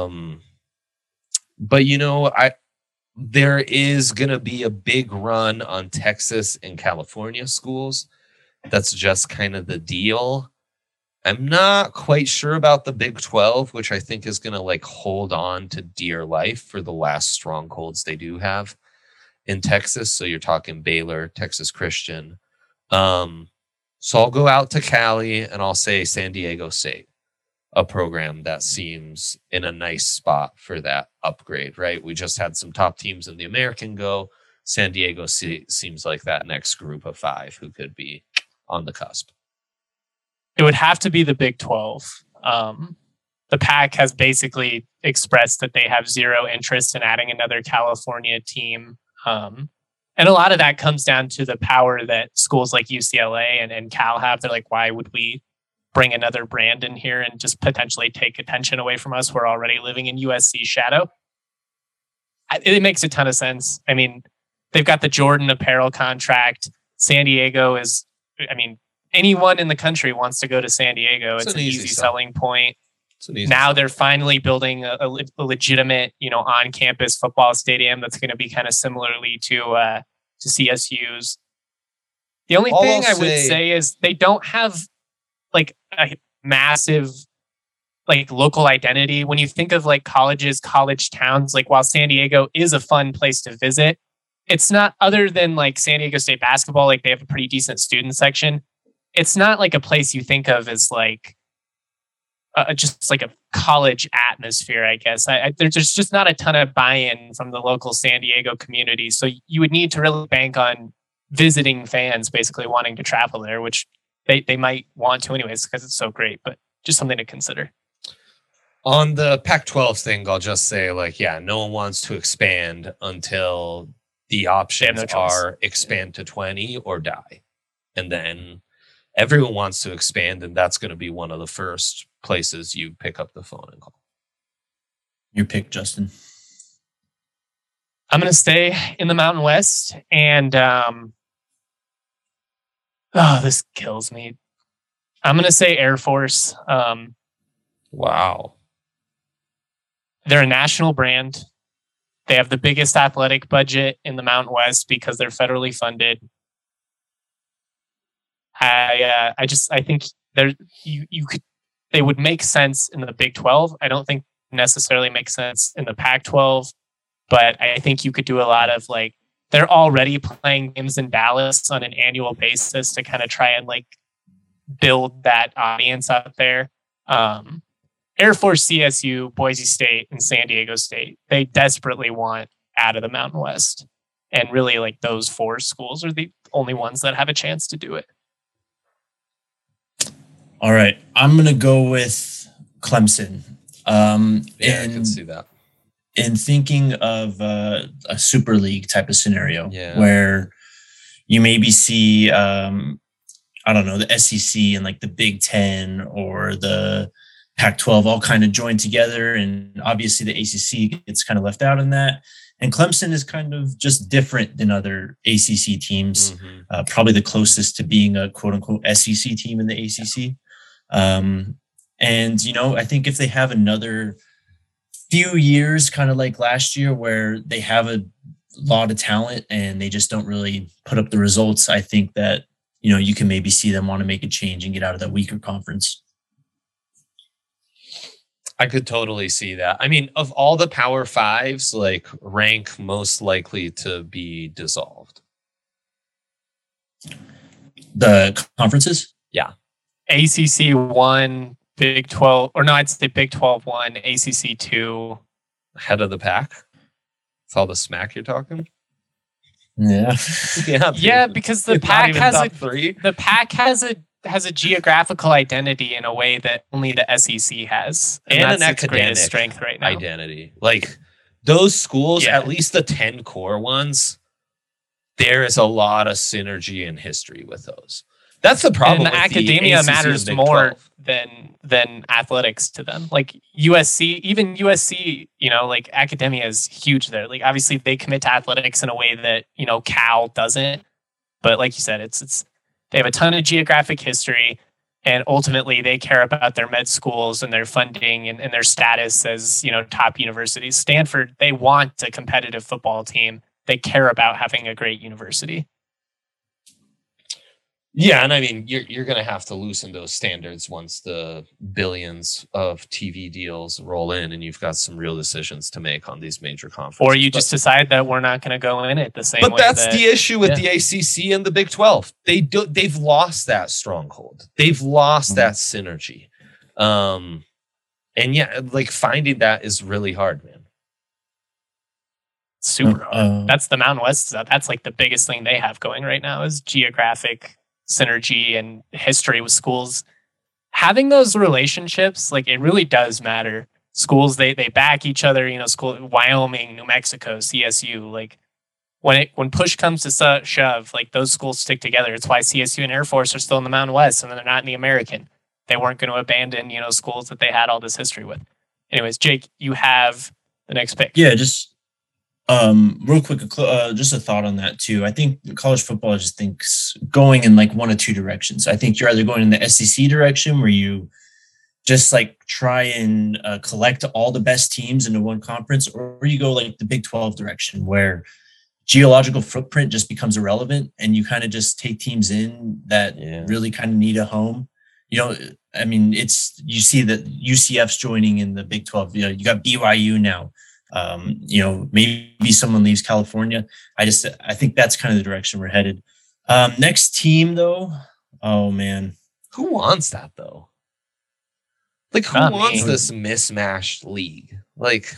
But there is going to be a big run on Texas and California schools. That's just kind of the deal. I'm not quite sure about the Big 12, which I think is going to hold on to dear life for the last strongholds they do have in Texas. So you're talking Baylor, Texas Christian. So I'll go out to Cali and I'll say San Diego State, a program that seems in a nice spot for that upgrade, right? We just had some top teams in the American go. San Diego seems like that next group of 5 who could be on the cusp. It would have to be the Big 12. The Pac has basically expressed that they have zero interest in adding another California team. And a lot of that comes down to the power that schools like UCLA and Cal have. They're like, why would we bring another brand in here and just potentially take attention away from us? We're already living in USC's shadow. It makes a ton of sense. I mean, they've got the Jordan apparel contract. San Diego is, anyone in the country wants to go to San Diego. It's an easy selling point. Now they're finally building a legitimate, on-campus football stadium that's going to be kind of similarly to CSU's. The only thing I would say is they don't have a massive local identity. When you think of colleges, college towns, while San Diego is a fun place to visit, it's not, other than San Diego State basketball, they have a pretty decent student section. It's not a place you think of as just a college atmosphere, I guess. There's just not a ton of buy-in from the local San Diego community. So you would need to really bank on visiting fans basically wanting to travel there, which they might want to anyways because it's so great, but just something to consider. On the Pac-12 thing, I'll just say, no one wants to expand until the options are expand to 20 or die. And then everyone wants to expand, and that's going to be one of the first places you pick up the phone and call. Your pick, Justin. I'm going to stay in the Mountain West, and this kills me. I'm going to say Air Force. Wow. They're a national brand. They have the biggest athletic budget in the Mountain West because they're federally funded. I think they would make sense in the Big 12. I don't think necessarily make sense in the Pac-12, but I think you could do a lot of they're already playing games in Dallas on an annual basis to kind of try and build that audience out there. Air Force, CSU, Boise State, and San Diego State, they desperately want out of the Mountain West. And really those 4 schools are the only ones that have a chance to do it. All right, I'm going to go with Clemson. I can see that. In thinking of a Super League type of scenario where you maybe see, the SEC and the Big Ten or the Pac-12 all kind of joined together. And obviously the ACC gets kind of left out in that. And Clemson is kind of just different than other ACC teams, probably the closest to being a quote unquote SEC team in the ACC. I think if they have another few years, kind of like last year, where they have a lot of talent and they just don't really put up the results, I think that, you can maybe see them want to make a change and get out of that weaker conference. I could totally see that. I mean, of all the Power Fives, rank most likely to be dissolved. The conferences? Yeah. ACC 1, Big 12, or no, I'd say Big 12 1, ACC 2. Head of the pack? That's all the smack you're talking? Yeah. Yeah, because the Pac has the Pac has has a geographical identity in a way that only the SEC has, and that's an its academic greatest strength right now. Identity. Like those schools, at least the 10 core ones, there is a lot of synergy and history with those. That's the problem. And academia matters more than athletics to them. Like USC, you know, like academia is huge there. Like obviously they commit to athletics in a way that, you know, Cal doesn't. But like you said, it's they have a ton of geographic history, and ultimately they care about their med schools and their funding and their status as, you know, top universities. Stanford, they want a competitive football team. They care about having a great university. Yeah, and I mean, you're going to have to loosen those standards once the billions of TV deals roll in, and you've got some real decisions to make on these major conferences. Or you just decide that we're not going to go in it the same way. But that's the issue with the ACC and the Big 12. They've lost that stronghold. They've lost that synergy. And yeah, like finding that is really hard, man. Super hard. That's the Mountain West stuff. That's like the biggest thing they have going right now is geographic synergy and history with schools. Having those relationships, like it really does matter. Schools, they back each other, you know, Wyoming, New Mexico, CSU, like when push comes to shove, like those schools stick together. It's why CSU and Air Force are still in the Mountain West and they're not in the American. They weren't going to abandon, you know, schools that they had all this history with. Anyways, Jake, you have the next pick. Yeah, just real quick, just a thought on that too. I think college football just thinks going in like one of two directions. I think you're either going in the SEC direction where you just like try and collect all the best teams into one conference, or you go like the Big 12 direction where geological footprint just becomes irrelevant and you kind of just take teams in that really kind of need a home. You know, I mean, you see that UCF's joining in the Big 12. You know, you got BYU now. You know, maybe someone leaves California. I think that's kind of the direction we're headed. Next team though. Oh man. Who wants that though? Like who wants this mismatched league? Like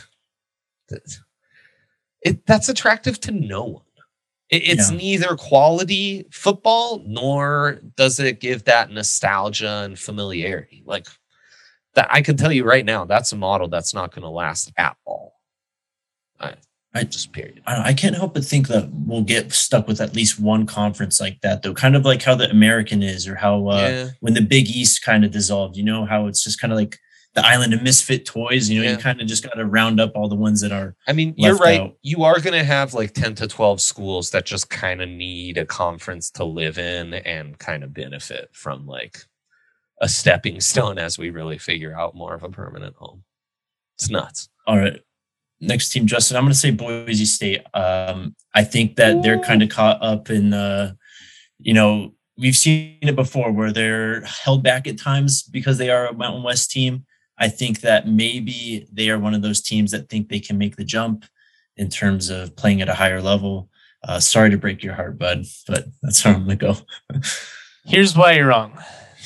that's attractive to no one. It's neither quality football nor does it give that nostalgia and familiarity. Like that, I can tell you right now, that's a model that's not going to last at all. Period. I can't help but think that we'll get stuck with at least one conference like that, though. Kind of like how the American is, or how when the Big East kind of dissolved. You know how it's just kind of like the island of misfit toys. You know, you kind of just got to round up all the ones that are. I mean, you're right. Out. You are going to have like 10 to 12 schools that just kind of need a conference to live in and kind of benefit from like a stepping stone as we really figure out more of a permanent home. It's nuts. All right. Next team, Justin, I'm going to say Boise State. I think that they're kind of caught up in, you know, we've seen it before where they're held back at times because they are a Mountain West team. I think that maybe they are one of those teams that think they can make the jump in terms of playing at a higher level. Sorry to break your heart, bud, but that's how I'm going to go. Here's why you're wrong.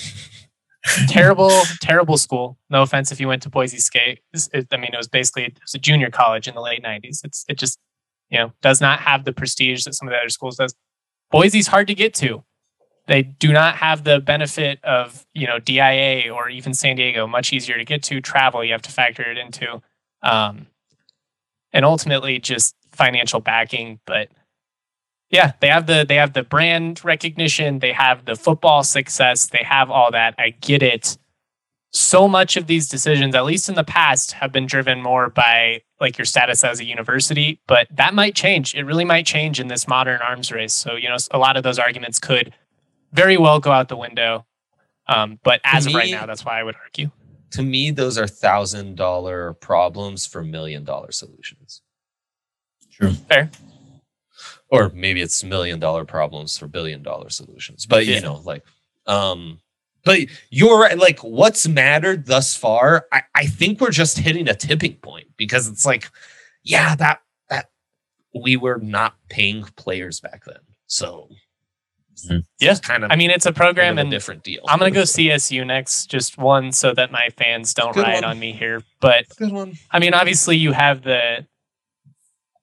Terrible school. No offense if you went to Boise State. It was a junior college in the late 90s. It just, you know, does not have the prestige that some of the other schools does. Boise's hard to get to. They do not have the benefit of, you know, DIA or even San Diego. Much easier to get to. Travel, you have to factor it into. And ultimately just financial backing. But yeah, they have the brand recognition. They have the football success. They have all that. I get it. So much of these decisions, at least in the past, have been driven more by like your status as a university, but that might change. It really might change in this modern arms race. So, you know, a lot of those arguments could very well go out the window. But as of right now, that's why I would argue. To me, those are $1,000 problems for $1 million solutions. True. Fair. Or maybe it's $1 million problems for $1 billion solutions. But, you know, like, but you're right. Like, what's mattered thus far, I think we're just hitting a tipping point because it's like, yeah, that we were not paying players back then. So, yeah, kind of. I mean, it's a program and a different deal. I'm going to go CSU next, just one so that my fans don't riot on me here. But, good one. I mean, obviously, you have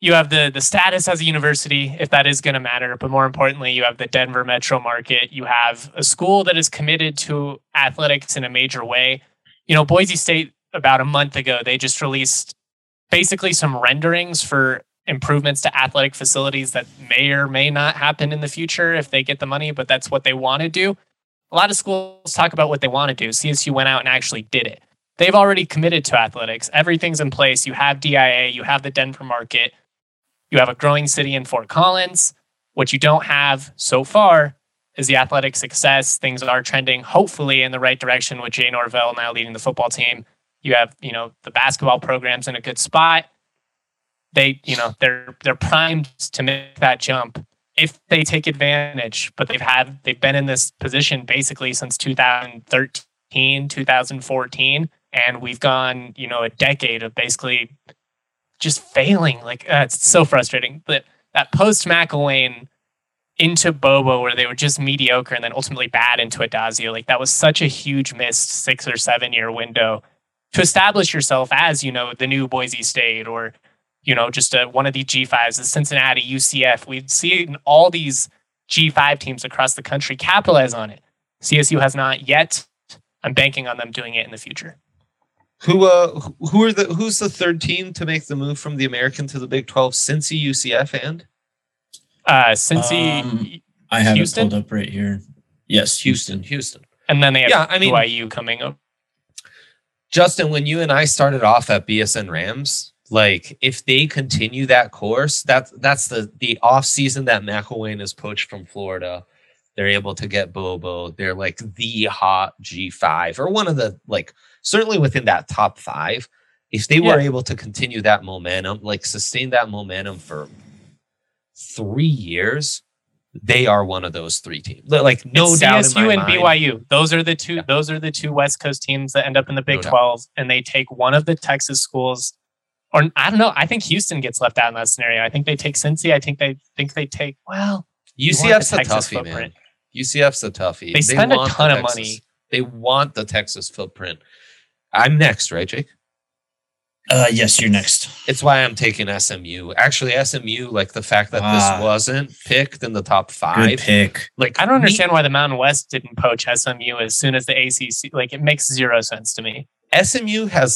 you have the status as a university, if that is going to matter. But more importantly, you have the Denver metro market. You have a school that is committed to athletics in a major way. Boise State, about a month ago, they just released basically some renderings for improvements to athletic facilities that may or may not happen in the future if they get the money, but that's what they want to do. A lot of schools talk about what they want to do. CSU went out and actually did it. They've already committed to athletics. Everything's in place. You have DIA, you have the Denver market. You have a growing city in Fort Collins. What you don't have so far is the athletic success. Things are trending, hopefully, in the right direction with Jay Norvell now leading the football team. You have, the basketball programs in a good spot. They're primed to make that jump if they take advantage. But they've been in this position basically since 2013, 2014, and we've gone, a decade of basically just failing. It's so frustrating. But that post McElwain into Bobo, where they were just mediocre and then ultimately bad into Adazio, that was such a huge missed 6 or 7 year window to establish yourself as, the new Boise State, or, just one of the G5s, the Cincinnati, UCF. We'd seen all these G5 teams across the country capitalize on it. CSU has not yet. I'm banking on them doing it in the future. Who's the third team to make the move from the American to the Big 12? Cincy, UCF, and Cincy. I have Houston? it pulled up right here. Yes, Houston. And then they have BYU coming up. Justin, when you and I started off at BSN Rams, if they continue that course, that's the off season that McElwain is poached from Florida. They're able to get Bobo. They're the hot G5, or one of the certainly within that top 5. If they were able to continue that momentum, sustain that momentum for 3 years, they are one of those 3 teams. No doubt in my CSU and mind. BYU. Those are the two. Yeah. Those are the 2 West Coast teams that end up in the Big 12, and they take one of the Texas schools. Or I don't know. I think Houston gets left out in that scenario. I think they take Cincy. I think they take. Well, UCF's a toughie, man. UCF's a toughie. They spend a ton of money. They want the Texas footprint. I'm next, right, Jake? Yes, you're next. It's why I'm taking SMU. Actually, SMU, the fact that this wasn't picked in the top 5. Good pick. I don't understand why the Mountain West didn't poach SMU as soon as the ACC. It makes zero sense to me. SMU has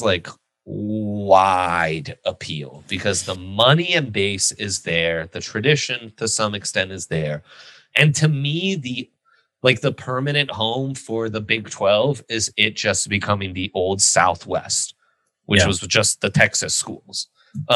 wide appeal because the money and base is there. The tradition to some extent is there. And to me, the permanent home for the Big 12 is it just becoming the old Southwest, which was just the Texas schools.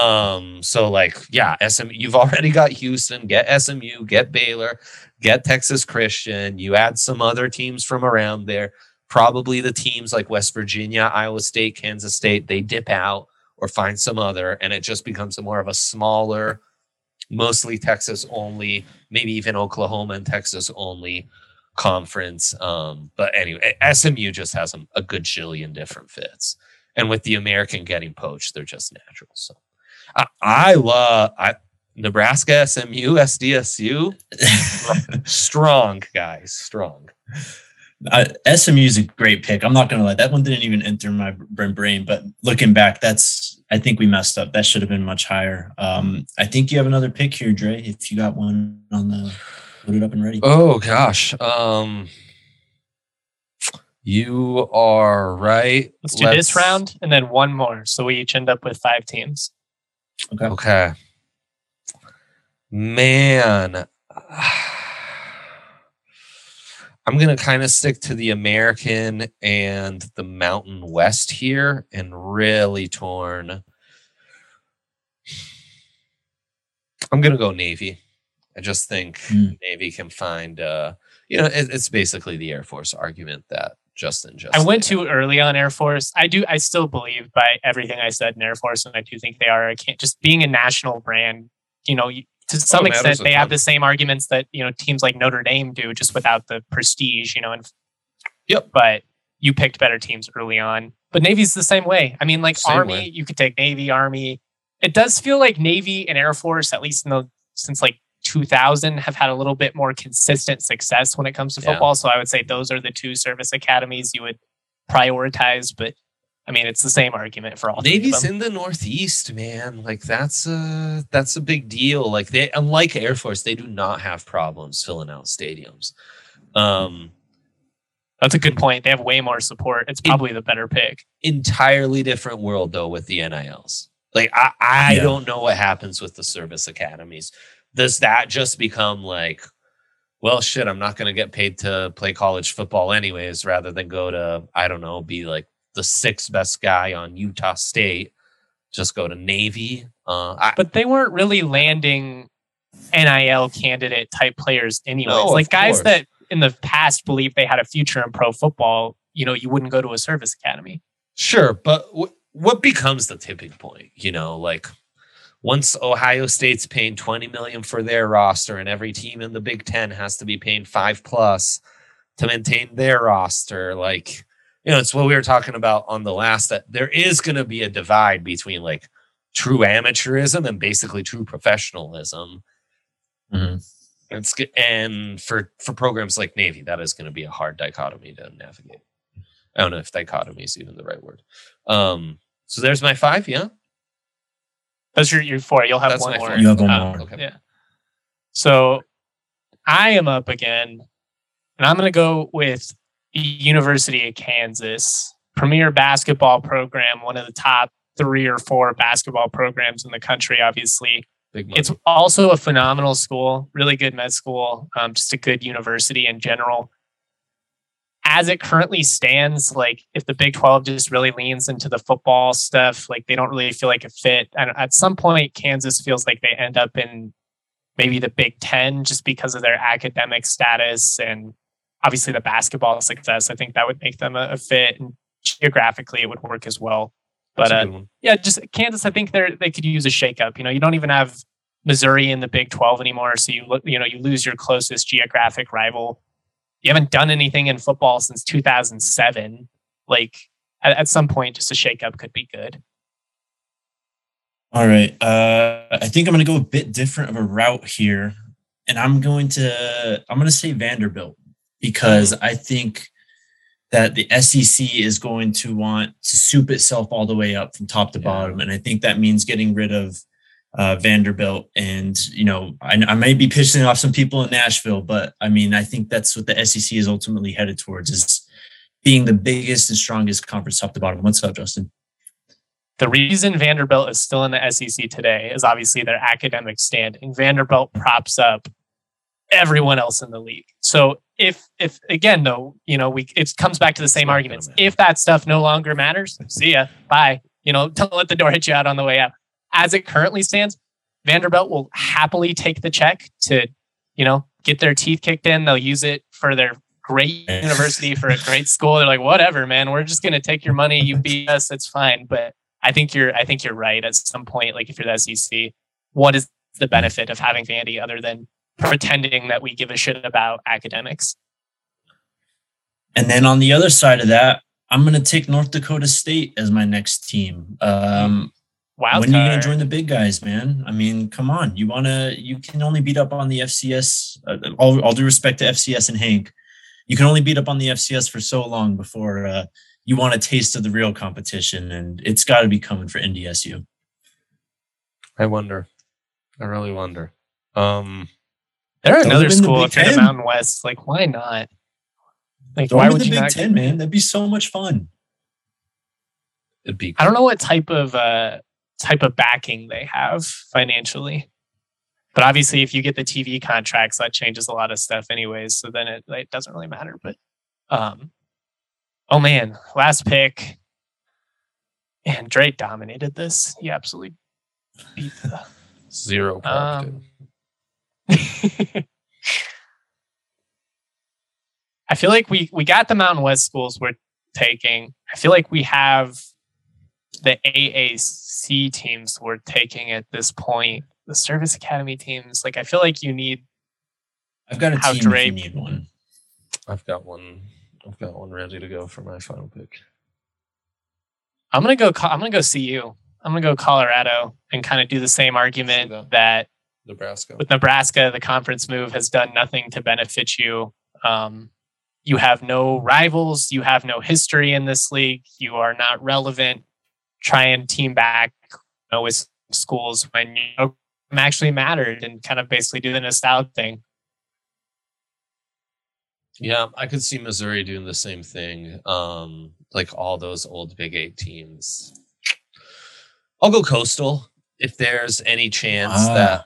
SMU, you've already got Houston, get SMU, get Baylor, get Texas Christian. You add some other teams from around there. Probably the teams like West Virginia, Iowa State, Kansas State, they dip out or find some other, and it just becomes more of a smaller, mostly Texas only, maybe even Oklahoma and Texas only conference. But anyway, SMU just has a good jillion different fits. And with the American getting poached, they're just natural. So I love Nebraska, SMU, SDSU. Strong, guys. Strong. SMU is a great pick. I'm not going to lie. That one didn't even enter my brain. But looking back, I think we messed up. That should have been much higher. I think you have another pick here, Dre, if you got one put it up and ready. Oh, gosh. You are right. Let's do this round and then one more. So we each end up with 5 teams. Okay. Man. I'm going to kind of stick to the American and the Mountain West here and really torn. I'm going to go Navy. I just think Navy can find, it's basically the Air Force argument that Justin just I went too early on Air Force. I still believe by everything I said in Air Force, and I do think they are. Just being a national brand, to some extent, they have the same arguments that, teams like Notre Dame do, just without the prestige, But you picked better teams early on. But Navy's the same way. I mean, Army, you could take Navy, Army. It does feel like Navy and Air Force, at least since 2000, have had a little bit more consistent success when it comes to football. So I would say those are the 2 service academies you would prioritize. But I mean, it's the same argument for all. Navy's in the Northeast, man. Like that's a big deal. Like they, unlike Air Force, they do not have problems filling out stadiums. That's a good point. They have way more support. It's probably the better pick. Entirely different world though with the NILs. Like I don't know what happens with the service academies. Does that just become like, well, shit, I'm not going to get paid to play college football anyways, rather than go to, I don't know, be like the 6th best guy on Utah State, just go to Navy. But they weren't really landing NIL candidate type players anyways. No, like guys course. that in the past believed they had a future in pro football, you know, you wouldn't go to a service academy. Sure, but what becomes the tipping point? You know, like once Ohio State's paying $20 million for their roster, and every team in the Big Ten has to be paying $5+ to maintain their roster, like, you know, it's what we were talking about on the last, that there is going to be a divide between like true amateurism and basically true professionalism. And for programs like Navy, that is going to be a hard dichotomy to navigate. I don't know if dichotomy is even the right word. So there's my 5. Yeah. That's your 4. You'll have one more. You have one more. Okay. Yeah. So I am up again, and I'm going to go with the University of Kansas, premier basketball program, one of the top 3 or 4 basketball programs in the country, obviously. Big money. It's also a phenomenal school, really good med school, just a good university in general. As it currently stands, like if the Big 12 just really leans into the football stuff, like they don't really feel like a fit. And at some point, Kansas feels like they end up in maybe the Big 10 just because of their academic status and obviously the basketball success. I think that would make them a fit, and geographically it would work as well. But yeah, just Kansas, I think they could use a shakeup. You know, you don't even have Missouri in the Big 12 anymore, so you lose your closest geographic rival. You haven't done anything in football since 2007. Like at some point, just a shakeup could be good. All right. I think I'm going to go a bit different of a route here, and I'm going to say Vanderbilt, because I think that the SEC is going to want to soup itself all the way up from top to bottom. And I think that means getting rid of Vanderbilt. And, you know, I might be pissing off some people in Nashville, but I mean, I think that's what the SEC is ultimately headed towards, is being the biggest and strongest conference top to bottom. What's up, Justin? The reason Vanderbilt is still in the SEC today is obviously their academic standing. Vanderbilt props up everyone else in the league. So if again, though, you know, it comes back to the same arguments. If that stuff no longer matters, see ya, bye. You know, don't let the door hit you out on the way out. As it currently stands, Vanderbilt will happily take the check to, you know, get their teeth kicked in. They'll use it for their great university, for a great school. They're like, whatever, man, we're just going to take your money. You beat us. It's fine. But I think you're right. At some point, like if you're the SEC, what is the benefit of having Vandy other than pretending that we give a shit about academics? And then on the other side of that, I'm going to take North Dakota State as my next team. When are you going to join the big guys, man? I mean, come on. You can only beat up on the FCS. All due respect to FCS and Hank, you can only beat up on the FCS for so long before you want a taste of the real competition, and it's got to be coming for NDSU. I really wonder. They're another school if you're in the Mountain West. Like, why not? Like, why would you not? Big Ten, man? That'd be so much fun. It'd be. I don't know what type of backing they have financially, but obviously, if you get the TV contracts, that changes a lot of stuff, anyways. So then it doesn't really matter. But, oh man, last pick, and Drake dominated this. He absolutely beat the 0. I feel like we got the Mountain West schools we're taking. I feel like we have the AAC teams we're taking at this point. The Service Academy teams. Like, I feel like you need. I've got a team if you need one. I've got one ready to go for my final pick. I'm gonna go CU. I'm gonna go Colorado and kind of do the same argument that Nebraska. With Nebraska, the conference move has done nothing to benefit you. you have no rivals, you have no history in this league, you are not relevant. Try and team back with schools when you actually mattered and kind of basically do the nostalgia thing. Yeah, I could see Missouri doing the same thing. Like all those old Big 8 teams. I'll go Coastal if there's any chance that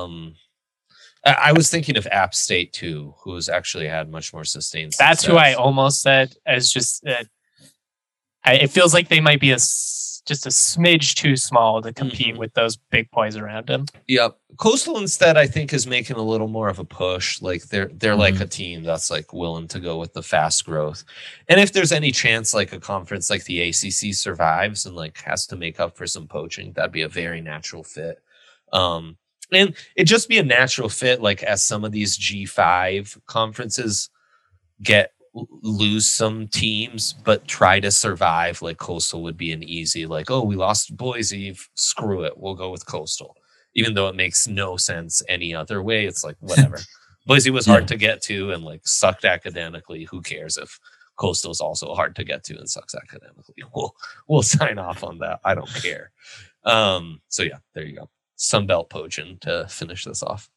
I was thinking of App State too, who's actually had much more sustained success. That's who I almost said as just it feels like they might be just a smidge too small to compete with those big boys around them. Yep. Coastal instead, I think, is making a little more of a push. Like they're like a team that's like willing to go with the fast growth. And if there's any chance like a conference like the ACC survives and like has to make up for some poaching, that'd be a very natural fit. And it'd just be a natural fit, like as some of these G5 conferences lose some teams, but try to survive. Like Coastal would be an easy, like, oh, we lost Boise, screw it, we'll go with Coastal. Even though it makes no sense any other way, it's like, whatever. Boise was hard to get to and like sucked academically. Who cares if Coastal's also hard to get to and sucks academically? We'll sign off on that. I don't care. So yeah, there you go. Sunbelt poaching to finish this off.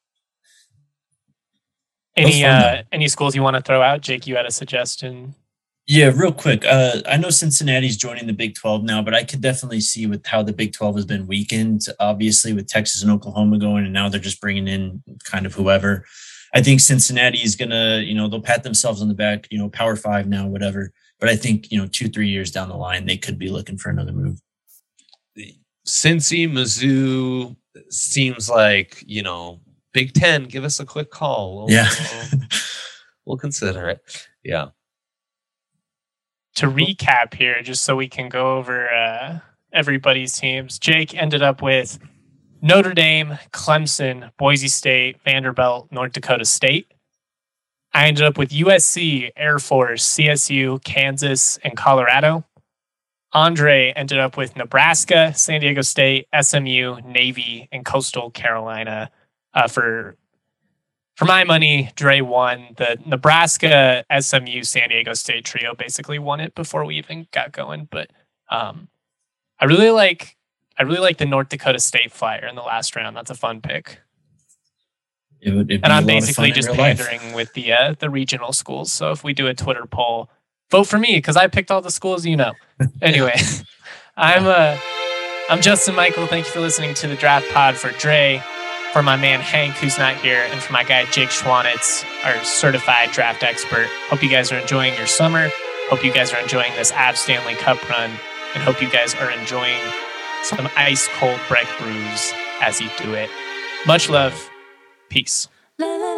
Any schools you want to throw out? Jake, you had a suggestion. Yeah, real quick. I know Cincinnati's joining the Big 12 now, but I could definitely see with how the Big 12 has been weakened, obviously with Texas and Oklahoma going, and now they're just bringing in kind of whoever. I think Cincinnati is going to, they'll pat themselves on the back, Power 5 now, whatever. But I think, 2-3 years down the line, they could be looking for another move. Cincy, Mizzou seems like, Big 10, give us a quick call. We'll consider it. Yeah. To recap here, just so we can go over everybody's teams, Jake ended up with Notre Dame, Clemson, Boise State, Vanderbilt, North Dakota State. I ended up with USC, Air Force, CSU, Kansas, and Colorado. Andre ended up with Nebraska, San Diego State, SMU, Navy, and Coastal Carolina. For my money, Dre won. The Nebraska, SMU, San Diego State trio basically won it before we even got going. But I really like the North Dakota State Flyer in the last round. That's a fun pick. And I'm basically just pandering with the regional schools. So if we do a Twitter poll, vote for me because I picked all the schools. Anyway, I'm Justin Michael. Thank you for listening to the Draft Pod. For Dre, for my man Hank, who's not here, and for my guy Jake Schwanitz, our certified draft expert. Hope you guys are enjoying your summer. Hope you guys are enjoying this Avs Stanley Cup run, and hope you guys are enjoying some ice cold Breck brews as you do it. Much love. Peace.